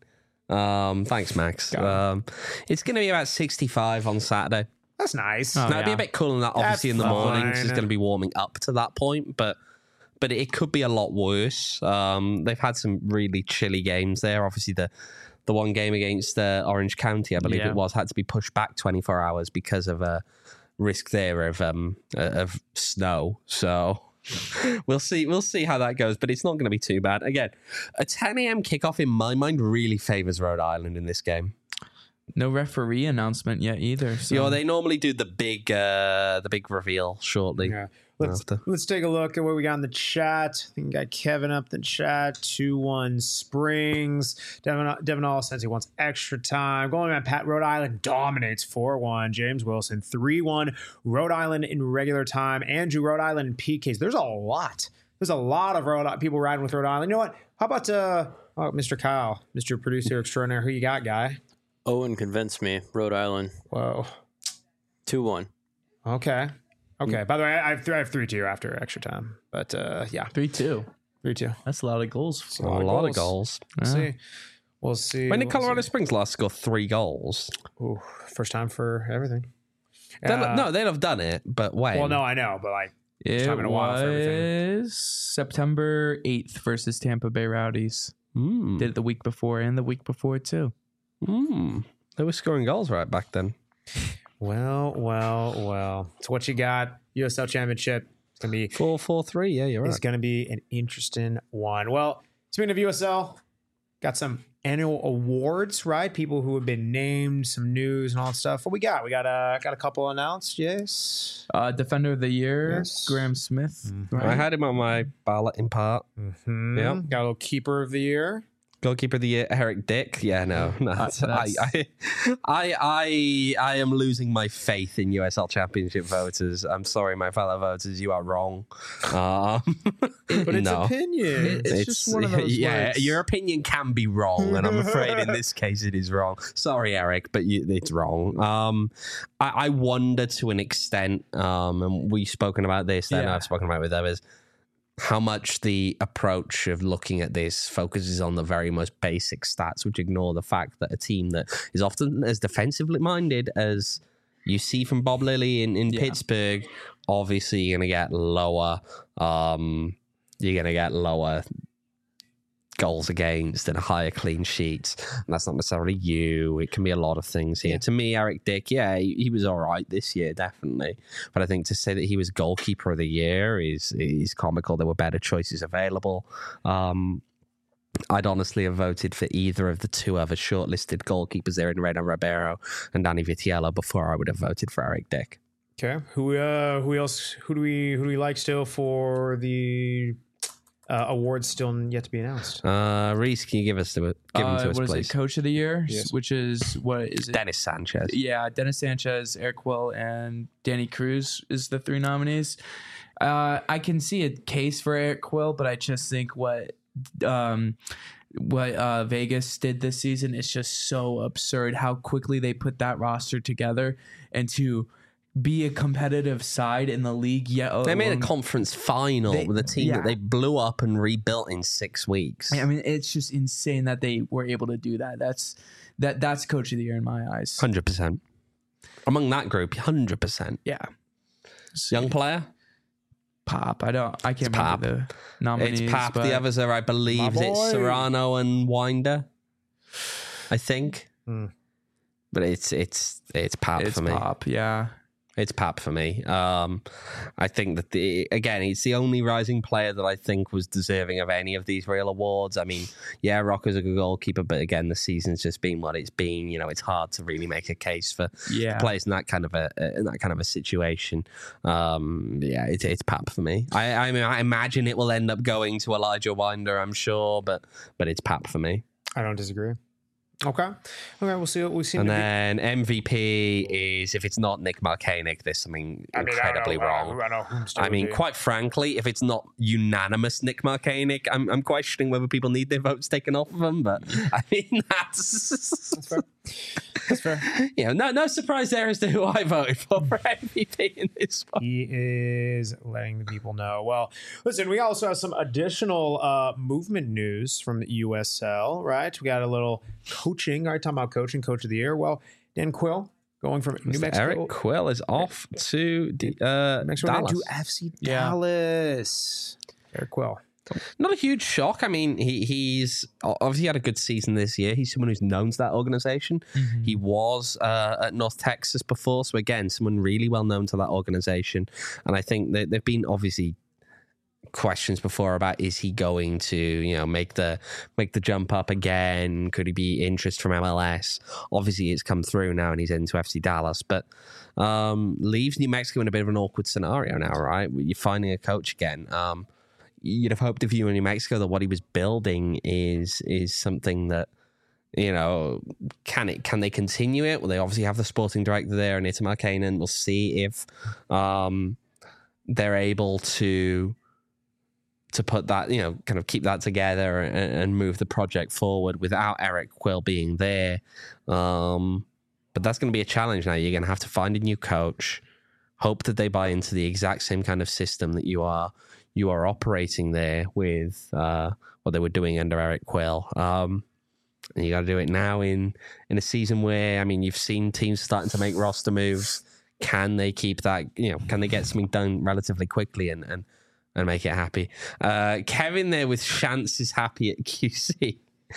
Um, thanks, Max. Got it. Um, it's going to be about sixty-five on Saturday. That's nice. Oh, Now, it'd be yeah. a bit cooler than that, obviously, That's in the morning. It's fine. just going to be warming up to that point, but but it could be a lot worse. Um, they've had some really chilly games there. Obviously, the the one game against uh, Orange County, I believe Yeah. it was, had to be pushed back twenty-four hours because of a risk there of um uh, of snow. So we'll see we'll see how that goes, but it's not going to be too bad. Again, a ten a.m. kickoff in my mind really favors Rhode Island in this game. No referee announcement yet either. So. You know, they normally do the big uh, the big reveal shortly. Yeah. Let's After. let's take a look at what we got in the chat. I think we got Kevin up in the chat. two one Springs. Devin, Devin All says he wants extra time. Going on, Pat. Rhode Island dominates four one. James Wilson three one. Rhode Island in regular time. Andrew, Rhode Island in P Ks. There's a lot. There's a lot of Rhode people riding with Rhode Island. You know what? How about uh, oh, Mister Kyle, Mister Producer Extraordinaire? Who you got, guy? Owen convinced me. Rhode Island. Whoa. two one. Okay. Okay. By the way, I have, th- I have three two after extra time. But uh, yeah, three two. three two. That's a lot of goals. A lot of goals. We'll Yeah. see. We'll see. When did We'll Colorado see. Springs last score three goals? Ooh, first time for everything. They'll- Uh, no, they'd have done it, but when? Well, no, I know, but like, It time in a while for everything. was September eighth versus Tampa Bay Rowdies. Mm. Did it the week before and the week before too. Mm. They were scoring goals right back then. well, well, well. So what you got? U S L Championship. It's gonna be. Four, four, three. Yeah, you're It's right. gonna be an interesting one. Well, speaking of U S L, got some annual awards, right? People who have been named, some news and all that stuff. What we got? We got uh, got a couple announced. Yes. Uh, Defender of the Year, Yes. Graham Smith. Mhm. right? I had him on my ballot in part. Mm-hmm. Yeah. Got a little keeper of the year. Goalkeeper of the year, Eric Dick. Yeah, no, no. Uh, I, that's- I, I, I, I am losing my faith in U S L Championship voters. I'm sorry, my fellow voters, you are wrong. Um, But it's no. opinion. It's just one of those Yeah, words. your opinion can be wrong, and I'm afraid in this case it is wrong. Sorry, Eric, but you, it's wrong. Um, I, I wonder to an extent, um, and we've spoken about this, and Yeah. I've spoken about it with others, how much the approach of looking at this focuses on the very most basic stats, which ignore the fact that a team that is often as defensively minded as you see from Bob Lilly in, in Yeah. Pittsburgh, obviously you're going to get lower, um, you're going to get lower goals against and higher clean sheets. And that's not necessarily you. It can be a lot of things here. Yeah. To me, Eric Dick, yeah, he, he was all right this year, definitely. But I think to say that he was goalkeeper of the year is is comical. There were better choices available. Um, I'd honestly have voted for either of the two other shortlisted goalkeepers there in Reno Ribeiro and Danny Vitiello before I would have voted for Eric Dick. Okay. Who uh who else who do we who do we like still for the uh, awards still yet to be announced? Uh, Reese, can you give us the give them Uh, to us, what is please? it? Coach of the Year, Yes. which is what is it? Dennis Sanchez. Yeah, Dennis Sanchez, Eric Will, and Danny Cruz is the three nominees. Uh, I can see a case for Eric Quill, but I just think what um, what uh, Vegas did this season is just so absurd. How quickly they put that roster together and to be a competitive side in the league. Yeah, They made a along- conference final They- with a team yeah. that they blew up and rebuilt in six weeks. I mean, it's just insane that they were able to do that. That's that. That's Coach of the Year in my eyes. Hundred percent. Among that group, hundred percent. Yeah, Young player, Pop. I don't. I can't It's remember Pop. the nominees. it's Pap. but The others are, I believe, My it's boy. Serrano and Winder. I think, Hmm. but it's it's it's Pap it's for me. Pop. Yeah. It's Pap for me. Um, I think that the again, he's the only rising player that I think was deserving of any of these real awards. I mean, yeah, Rocco's a good goalkeeper, but again, the season's just been what it's been. You know, it's hard to really make a case for Yeah. players in that kind of a in that kind of a situation. Um, yeah, it's it's Pap for me. I I, mean, I imagine it will end up going to Elijah Winder, I'm sure, but but it's Pap for me. I don't disagree. Okay. Okay, we'll see what we see. And then M V P is, if it's not Nick Markanek, there's something I mean, incredibly I don't know, wrong. I don't know, I don't know whom to I mean, be. quite frankly, if it's not unanimous Nick Markanek, I'm I'm questioning whether people need their votes taken off of them. But I mean, that's That's fair. That's fair. you know, no no surprise there as to who I voted for for M V P in this one. He is letting the people know. Well, listen, we also have some additional uh, movement news from the U S L, right? We got a little coaching. All right, talking about coaching, coach of the year. Well, Dan Quill going from New Mister Mexico. Eric Quill is off to D- uh, Mexico Dallas. to F C Yeah. Dallas. Eric Quill. Not a huge shock. I mean, he he's obviously had a good season this year. He's someone who's known to that organization. Mm-hmm. He was uh, at North Texas before, so again, someone really well known to that organization. And I think that there've been obviously questions before about is he going to you know make the make the jump up again? Could he be interest from M L S? Obviously, it's come through now, and he's into F C Dallas, but um, leaves New Mexico in a bit of an awkward scenario now, right? You're finding a coach again. Um, You'd have hoped if you were in New Mexico that what he was building is is something that, you know, can it can they continue it? Well, they obviously have the sporting director there, and Itamar Kanan. We'll see if um, they're able to to put that, you know, kind of keep that together and, and move the project forward without Eric Quill being there. Um, but that's going to be a challenge now. You're going to have to find a new coach, hope that they buy into the exact same kind of system that you are you are operating there with uh, what they were doing under Eric Quill. Um, and you got to do it now in in a season where, I mean, you've seen teams starting to make roster moves. Can they keep that, you know, can they get something done relatively quickly and and, and make it happy? Uh, Kevin there with Chance is happy at Q C.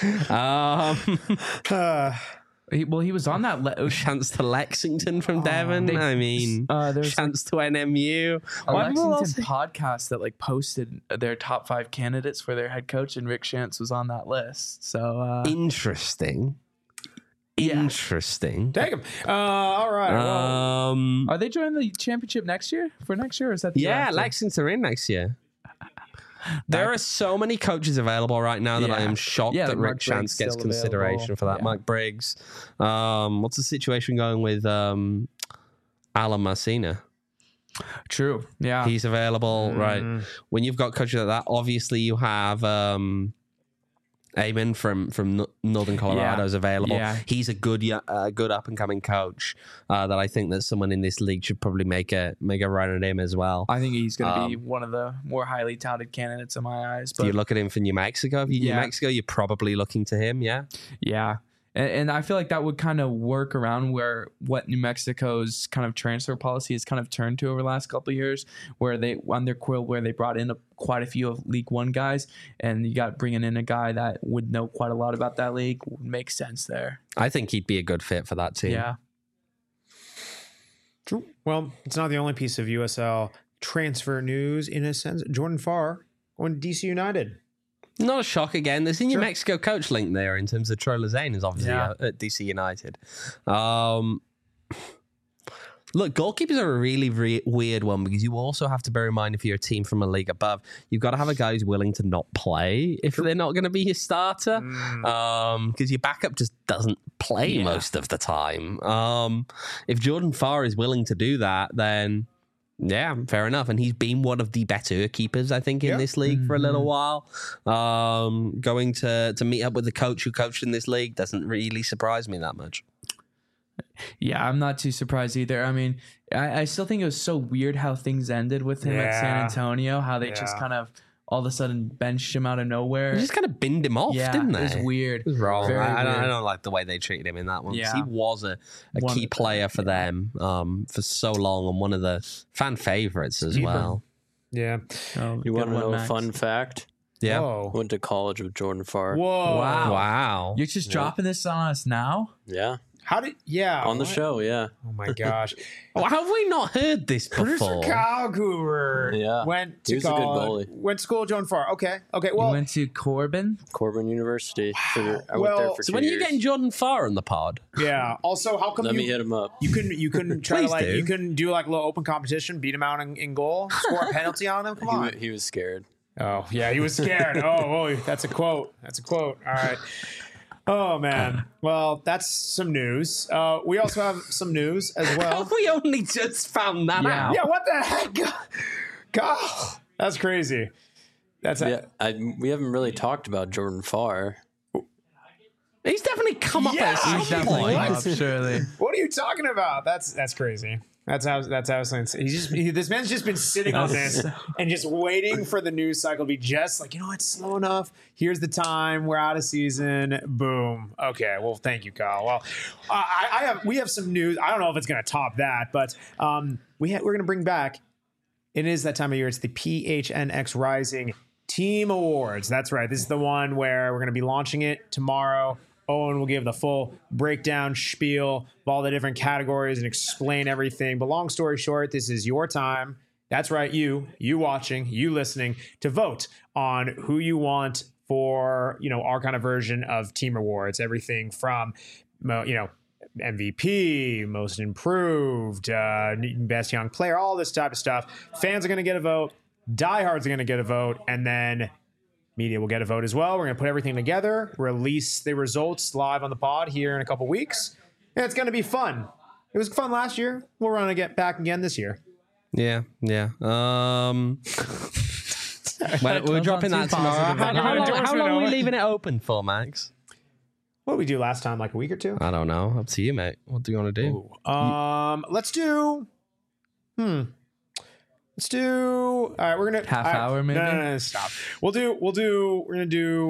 Um, Uh, He, well, he was on that. Le- Chance to Lexington from Devon. they- I mean, uh, there's chance to N M U. a Why people Lexington all say- podcast that like posted their top five candidates for their head coach, and Rick Shantz was on that list. So uh, Interesting. Yeah. Interesting. take him. Uh, all right. well, Um, are they joining the championship next year? For next year, or is that the year yeah, after? Lexington are in next year. There are so many coaches available right now that I Yeah. am shocked Yeah, that like Rick Mark Briggs Chance gets still consideration available. for that. Yeah. Mark Briggs. Um, what's the situation going with um, Alan Marcina? True. Yeah. He's available, Mm. right? When you've got coaches like that, obviously you have um, Eamon from from No- Northern Colorado is available. Yeah. He's a good, yo- uh, good up and coming coach uh, that I think that someone in this league should probably make a make a run at him as well. I think he's going to Um, be one of the more highly touted candidates in my eyes. Do But you look at him for New Mexico? If you New Yeah. Mexico, you're probably looking to him. Yeah. yeah. And, and I feel like that would kind of work around where what New Mexico's kind of transfer policy has kind of turned to over the last couple of years, where they under Quill, where they brought in a, quite a few of League One guys, and you got bringing in a guy that would know quite a lot about that league would make sense there. I think he'd be a good fit for that team. Yeah. True. Well, it's not the only piece of U S L transfer news in a sense. Jordan Farr going to D C United. Not a shock again. There's a New Sure. Mexico coach link there in terms of Troy Lezane is obviously Yeah. at, at D C United. Um, look, goalkeepers are a really, really weird one because you also have to bear in mind if you're a team from a league above, you've got to have a guy who's willing to not play if they're not going to be your starter. Mm. Um, because your backup just doesn't play Yeah. most of the time. Um, if Jordan Farr is willing to do that, then yeah, fair enough. And he's been one of the better keepers, I think, in Yeah. this league for a little Mhm. while. Um, going to to meet up with the coach who coached in this league doesn't really surprise me that much. Yeah, I'm not too surprised either. I mean, I, I still think it was so weird how things ended with him at San Yeah. Antonio, how they just Yeah. kind of all of a sudden benched him out of nowhere. They just kind of binned him off, yeah, didn't they? it was weird. It was wrong. Very I, I, don't, I weird. don't like the way they treated him in that one. 'Cause Yeah. He was a, a One key of the- player for yeah. them um, for so long and one of the fan favorites as Keeper. well. Yeah. Oh, You good want to one, know a Max. fun fact? Yeah. Whoa. Went to college with Jordan Farr. Whoa. Wow. Wow. You're just Yeah. dropping this on us now? Yeah. How did? Yeah, on the what? show. Yeah, Oh my gosh, Oh, have we not heard this producer before? Kyle Cooper. Yeah. went He to was a good college. goalie. Went to school at Joan Farr. Okay, okay. You Well, went to Corbin. Corbin University. For, I went Well, there for So two when are you years. getting Jordan Farr on the pod? yeah. Also, how come Let you me hit him up. you couldn't you couldn't try to Please like do. you couldn't do like a little open competition, beat him out in, in goal, score a penalty on him? Come He, on. wa- he was scared. Oh, yeah, he was scared. oh, oh, that's a quote. That's a quote. All right. Oh, man. Well, that's some news. Uh, we also have some news as well. we only just found that Yeah. out. Yeah, what the heck? God, that's crazy. That's Yeah, I, we haven't really talked about Jordan Farr. He's definitely come up Yeah, at some he's Definitely What? up, surely. What are you talking about? That's that's crazy. That's how that's how it's he's just he, this man's just been sitting on this and just waiting for the news cycle to be just like, you know what, slow enough. Here's the time. We're out of season. Boom. Okay. Well, thank you, Kyle. Well, I, I have we have some news. I don't know if it's going to top that, but um, we ha- we're going to bring back. It is that time of year. It's the P H N X Rising Team Awards. That's right. This is the one where we're going to be launching it tomorrow. Owen will give the full breakdown spiel of all the different categories and explain everything. But long story short, this is your time. That's right, you, you watching, you listening, to vote on who you want for, you know, our kind of version of team awards. Everything from, you know, M V P, most improved, uh, best young player, all this type of stuff. Fans are going to get a vote. Diehards are going to get a vote. And then media will get a vote as well. We're going to put everything together, release the results live on the pod here in a couple weeks. And it's going to be fun. It was fun last year. We'll run to get back again this year. Yeah, yeah. Um, well, we're Sounds dropping too that tomorrow. positive. How, how, long, how Endorsement, long are we Owen. leaving it open for, Max? What did we do last time? Like a week or two? I don't know. Up to you, mate. What do you want to do? Um, let's do. Hmm. Let's do. All right, we're gonna Half all right, hour, maybe? No, no, no, stop. We'll do. We'll do. We're gonna do.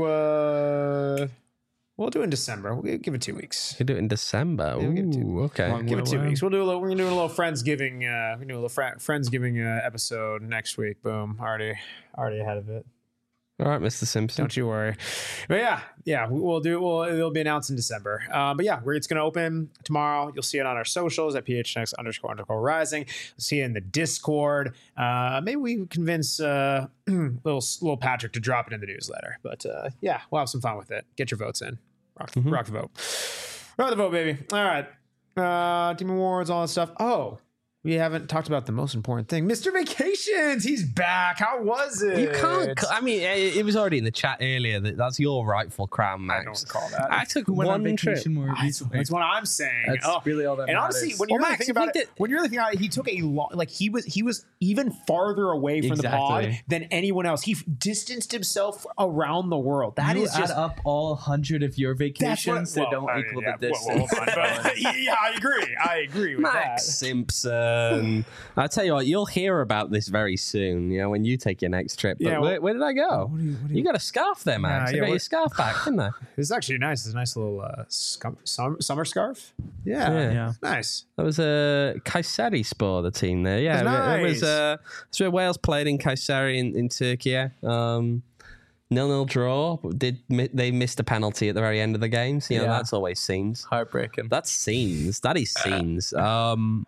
uh We'll do it in December. We'll give it two weeks. We do it in December. we'll give it two- Ooh, okay. Long Give it two Wow. weeks. We'll do a little. We're gonna do a little Friendsgiving. Uh, we're gonna do a little fr- Friendsgiving uh, episode next week. Boom. Already, already ahead of it. All right, Mister Simpson. Don't you worry. But yeah, yeah, we- we'll do. Well, it'll be announced in December. Uh, but yeah, we're, it's going to open tomorrow. You'll see it on our socials at P H N X underscore underscore rising. You'll see it in the Discord. Uh, maybe we can convince uh, little little Patrick to drop it in the newsletter. But uh, yeah, we'll have some fun with it. Get your votes in. Rock, Mm-hmm. rock the vote. Rock the vote, baby. All right. Uh, team awards, all that stuff. Oh. We haven't talked about the most important thing. Mister Vacations, he's back. How was it? You can't. I mean, it, it was already in the chat earlier that that's your rightful crown, I Max. don't recall that. I took Who went on one trip. vacation more That's, recently? that's what I'm saying. That's Oh. really all that And honestly, matters. when you Well, really Max, think if about we it, did- when you really think about it, he took a long, like he was, he was even farther away from the pod Exactly. than anyone else. He f- distanced himself around the world. That you is add just up all one hundred of your that's what. vacations that well, don't I mean, equal yeah, the well, well, distance. hold on, but- yeah, I agree. I agree with Max that. Simpson. I tell you what, you'll hear about this very soon. You know, when you take your next trip. But Yeah, where, well- where did I go? What do you- what do you, you- got a scarf there, Max. Yeah, I got yeah, your what- scarf back, didn't I? This is actually nice. It's a nice little uh, scum, sum, summer scarf. Yeah, Yeah. Yeah. nice. That was a uh, Kayseri Spor, the team there. Yeah, That's it was. nice. Uh, it's where Wales played in Kayseri in, in Turkey. Um, nil-nil draw. Did mi- they missed a penalty at the very end of the game? So, you know, Yeah. that's always scenes. Heartbreaking. That's scenes. That is scenes. Um,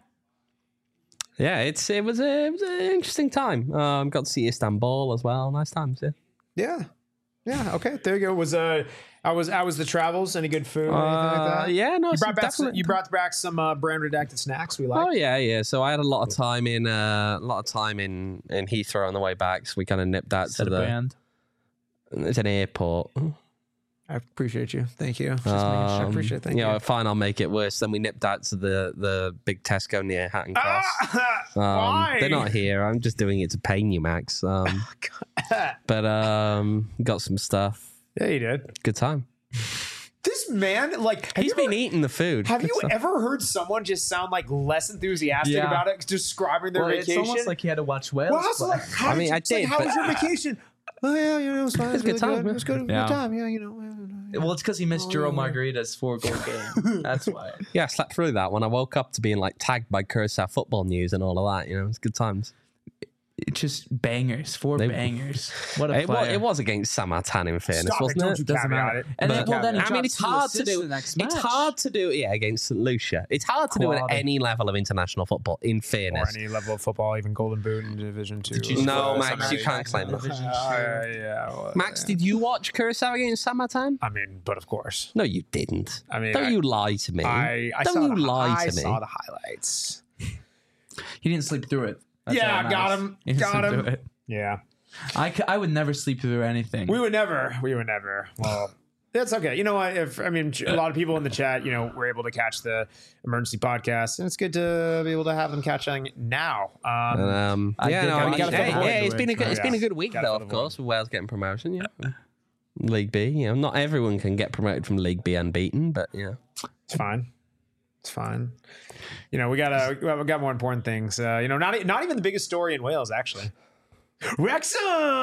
yeah, it's it was a it was an interesting time. Um, got to see Istanbul as well. Nice times. Yeah. Yeah, yeah. Okay, there you go. Was uh, I was I was the travels. Any good food? Anything like Uh, that? yeah, no, You some brought back some, definite- you brought back some uh, brand redacted snacks we like. Oh yeah, yeah. So I had a lot of time in uh, a lot of time in in Heathrow on the way back. So we kind of nipped that Set to a the. brand. It's an airport. I appreciate you. Thank you. Just making sure. I Um, appreciate it. Thank you you. know, fine, I'll make it worse. Then we nipped out to the the big Tesco near Hatton Cross. Ah, Um, why? They're not here. I'm just doing it to pain you, Max. Um, but um, got some stuff. Yeah, you did. Good time. This man, like, have He's you been ever, eating the food. have Good you stuff. ever heard someone just sound like less enthusiastic Yeah. about it, describing their Well, it's vacation? almost like he had to watch Wales. well, also, play. like, how I did mean, you, I it's like, did, how but- was your vacation? Oh yeah, you know, it was fine. It was a good really time, good. yeah. It was good. Yeah. Good time. Yeah, you know. Well, it's because he missed Oh, Juro yeah. Margarita's four goal game. That's why. Yeah, I slept through that when I woke up to being like tagged by Curacao Football News and all of that. You know, it's good times. It's just bangers, four They- bangers. What a It was, player. it was against Samatan, in fairness, Stop it, wasn't don't it? you Doesn't caveat matter. it. And then, But- well, then he I mean, dropped it's two hard to assists do. the next It's match. hard to do, yeah, against Saint Lucia. It's hard to do at Quality. any level of international football. In Or fairness, any level of football, even Golden Boot in Division Two. you No, score Max, something you can't like claim that. Division Uh, two? yeah, well, Max, yeah. did you watch Curacao against Samatan? I mean, but of course, No, you didn't. I mean, Don't I- you lie to me. I, I Don't saw you the, lie I to me. saw the highlights. He didn't sleep through it. That's Yeah, all that got matters. him, He didn't got sleep him. through it. Yeah, I, c- I would never sleep through anything. we would never, we would never. Well, that's okay. You know what? If I mean, a lot of people in the chat, you know, were able to catch the emergency podcast, and it's good to be able to have them catching now. Um, And, um, I yeah, did- no, I I mean, gotta hey, fill the yeah, void. it's been a good, it's Yeah. been a good week Gotta though, fill of the course, with Wales getting promotion. Yeah, League B. You know, not everyone can get promoted from League B unbeaten, but yeah, It's fine. It's fine. You know, we got uh, we got more important things. Uh, you know, not e- not even the biggest story in Wales actually. Wrexham.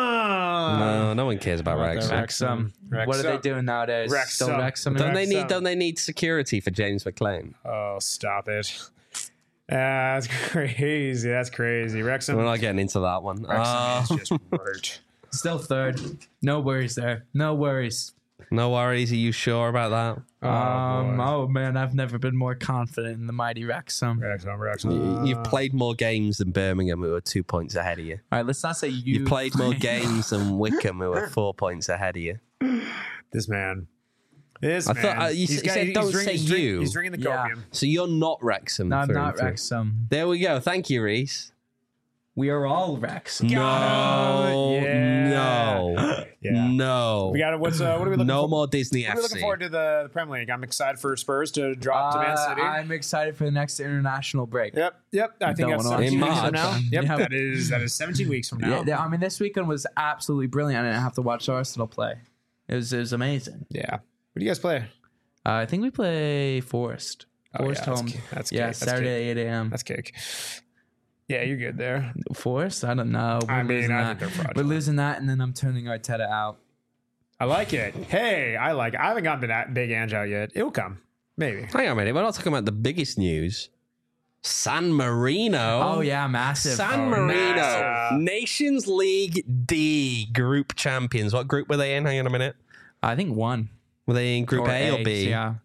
no, no one cares about Wrexham. Wrexham. What are Wrexham. they doing nowadays? Wrexham. Still Wrexham. Don't they Wrexham. need? Don't they need security for James McLean? Oh, stop it. Uh, that's crazy. That's crazy. Wrexham. We're not getting into that one. Wrexham Uh, is just hurt. Still third. No worries there. No worries. no worries. Are you sure about that? um. boy. Oh man, I've never been more confident in the mighty Wrexham. All Wrexham. Wrexham. You- You've played more games than Birmingham, who are two points ahead of you. right, let's not say you. You've played more games than Wickham, who are four points ahead of you. This man. This I man. thought, uh, you He's said- got- said he's don't drinking- say he's drink- you. He's drinking the Yeah. copium. So you're not Wrexham. No, I'm through not and through. Wrexham. There we go. Thank you, Reese. We are all Wrexham. No, Yeah. no, Yeah. no. We got it. What's uh, what are we looking no for? more Disney What are F we C. looking forward to the, the Premier League. I'm excited for Spurs to drop to Man Uh, City. I'm excited for the next international break. Yep, yep. I think Don't that's wanna- seventeen In weeks from March. now. Yep, Yeah. that is that is seventeen weeks from now. Yeah, I mean, this weekend was absolutely brilliant. I didn't have to watch Arsenal play. It was it was amazing. Yeah. What do you guys play? Uh, I think we play Forest. Oh, Forest yeah, that's home. ca- that's yeah, cake, that's Saturday eight a.m. That's cake. Yeah, you're good there. Forest? I don't know. We're I mean, losing I that. think they're fraudulent. We're losing that, and then I'm turning Arteta out. I like it. Hey, I like it. I haven't gotten to that big Ange out yet. It'll come. Maybe. Hang on a minute. We're not talking about the biggest news. San Marino. Oh, yeah, massive. San Oh, Marino, massive. Nations League D group champions. What group were they in? Hang on a minute. I think one. Were they in Group Or A or A, B? Yeah.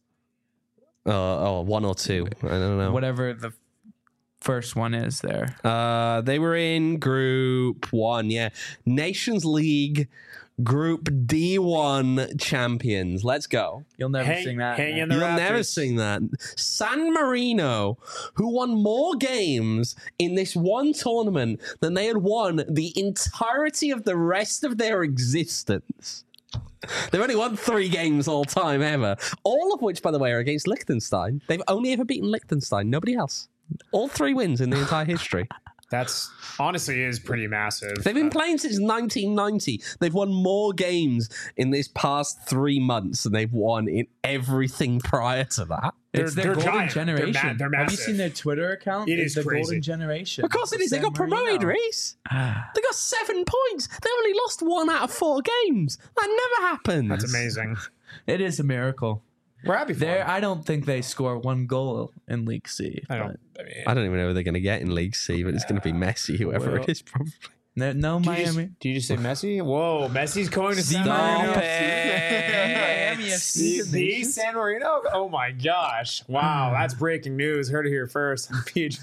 Oh, oh, one or two. I don't know. Whatever the first one is there. Uh, they were in Group One. Yeah, Nations League Group D one champions. Let's go. You'll never Hang, sing that. hang man. in the You'll Raptors. never sing that. San Marino, who won more games in this one tournament than they had won the entirety of the rest of their existence. They've only won three games all time ever. All of which, by the way, are against Liechtenstein. They've only ever beaten Liechtenstein. Nobody else. All three wins in the entire history. That's honestly is pretty massive. They've been playing since nineteen ninety. They've won more games in this past three months than they've won in everything prior to that. It's They're- their they're golden giant. They're ma- generation. they're Have you massive. seen their Twitter account? It It's is the crazy. golden generation. Of course it is. They San got promoted, Marino. Reese. They got seven points. They only lost one out of four games. That never happens. That's amazing. It is a miracle. We're happy for There, them. I don't think they score one goal in League C. I but don't. I mean, I don't even know who they're going to get in League C, but it's going to be Messi, whoever Well, it is, probably. No, no do you, just, Miami. do you just say Messi? Whoa, Messi's going to San Stop Marino. it. Miami F The, C. the San Marino? Oh my gosh. Wow, that's breaking news. Heard it here first. P H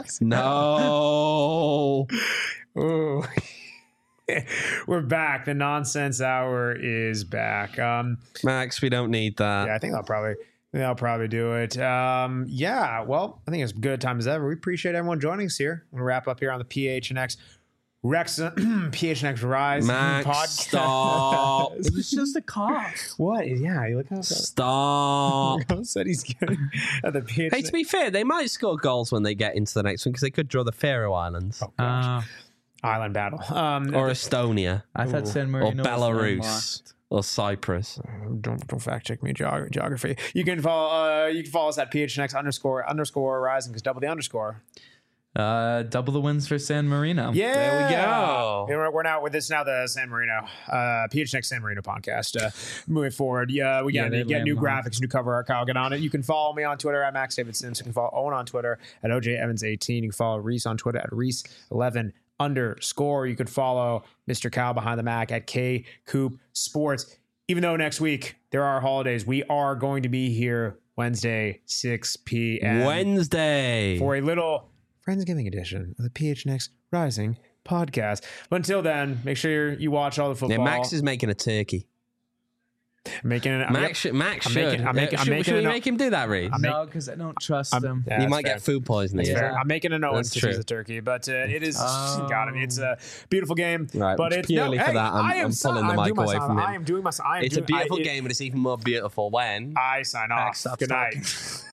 No. Ooh. We're back. The nonsense hour is back. Um, Max, we don't need that. yeah, I think I'll probably I think I'll probably do it. Um, yeah, well, I think it's good time as ever. We appreciate everyone joining us here. We'll wrap up here on the P H N X Wrexham P H N X Rise Max, podcast. stop. It was just a cough. What? Yeah, you look how Stop. said he's getting at the P H N X. Hey, to be fair, they might score goals when they get into the next one because they could draw the Faroe Islands Oh, gosh. Uh, Island battle. Um, or Estonia I thought San or Marino was Belarus landlocked. or Cyprus. don't don't fact check me geog- geography. You can follow uh, you can follow us at P H N X underscore underscore rising because double the underscore. Uh, double the wins for San Marino. Yeah, There we go. Yeah, We're, we're now with this now the San Marino uh, P H N X San Marino podcast. Uh, moving forward, yeah, we Yeah, got they to get new landlocked. graphics, new cover art. Kyle, get on it. You can follow me on Twitter at Max David Sims. You can follow Owen on Twitter at O J Evans eighteen. You can follow Reese on Twitter at Reese eleven underscore. You could follow Mister Cal behind the Mac at K Coop Sports. Even though next week there are holidays, we are going to be here Wednesday, six p.m. Wednesday for a little Friendsgiving edition of the P H N X Rising podcast. But until then, make sure you watch all the football. Yeah, Max is making a turkey. Making it. Max, yep. should, Max I'm should. making- I'm making- Uh, I'm should, making should a we no- make him do that, Reese? I'm No, because I don't trust I'm- them. yeah, you that's might fair. get food poisoning. That's Yeah. fair. I'm making a no That's instance true. of the turkey, but uh, it is Oh. got it. It's a beautiful game, Right, but it's purely no, for hey, that, I'm- I am I'm si- pulling the I'm mic doing my away sign- from him. I am doing my. I am It's a doing, beautiful I, it- game, but it's even more beautiful when I sign off. stops Good talking. night.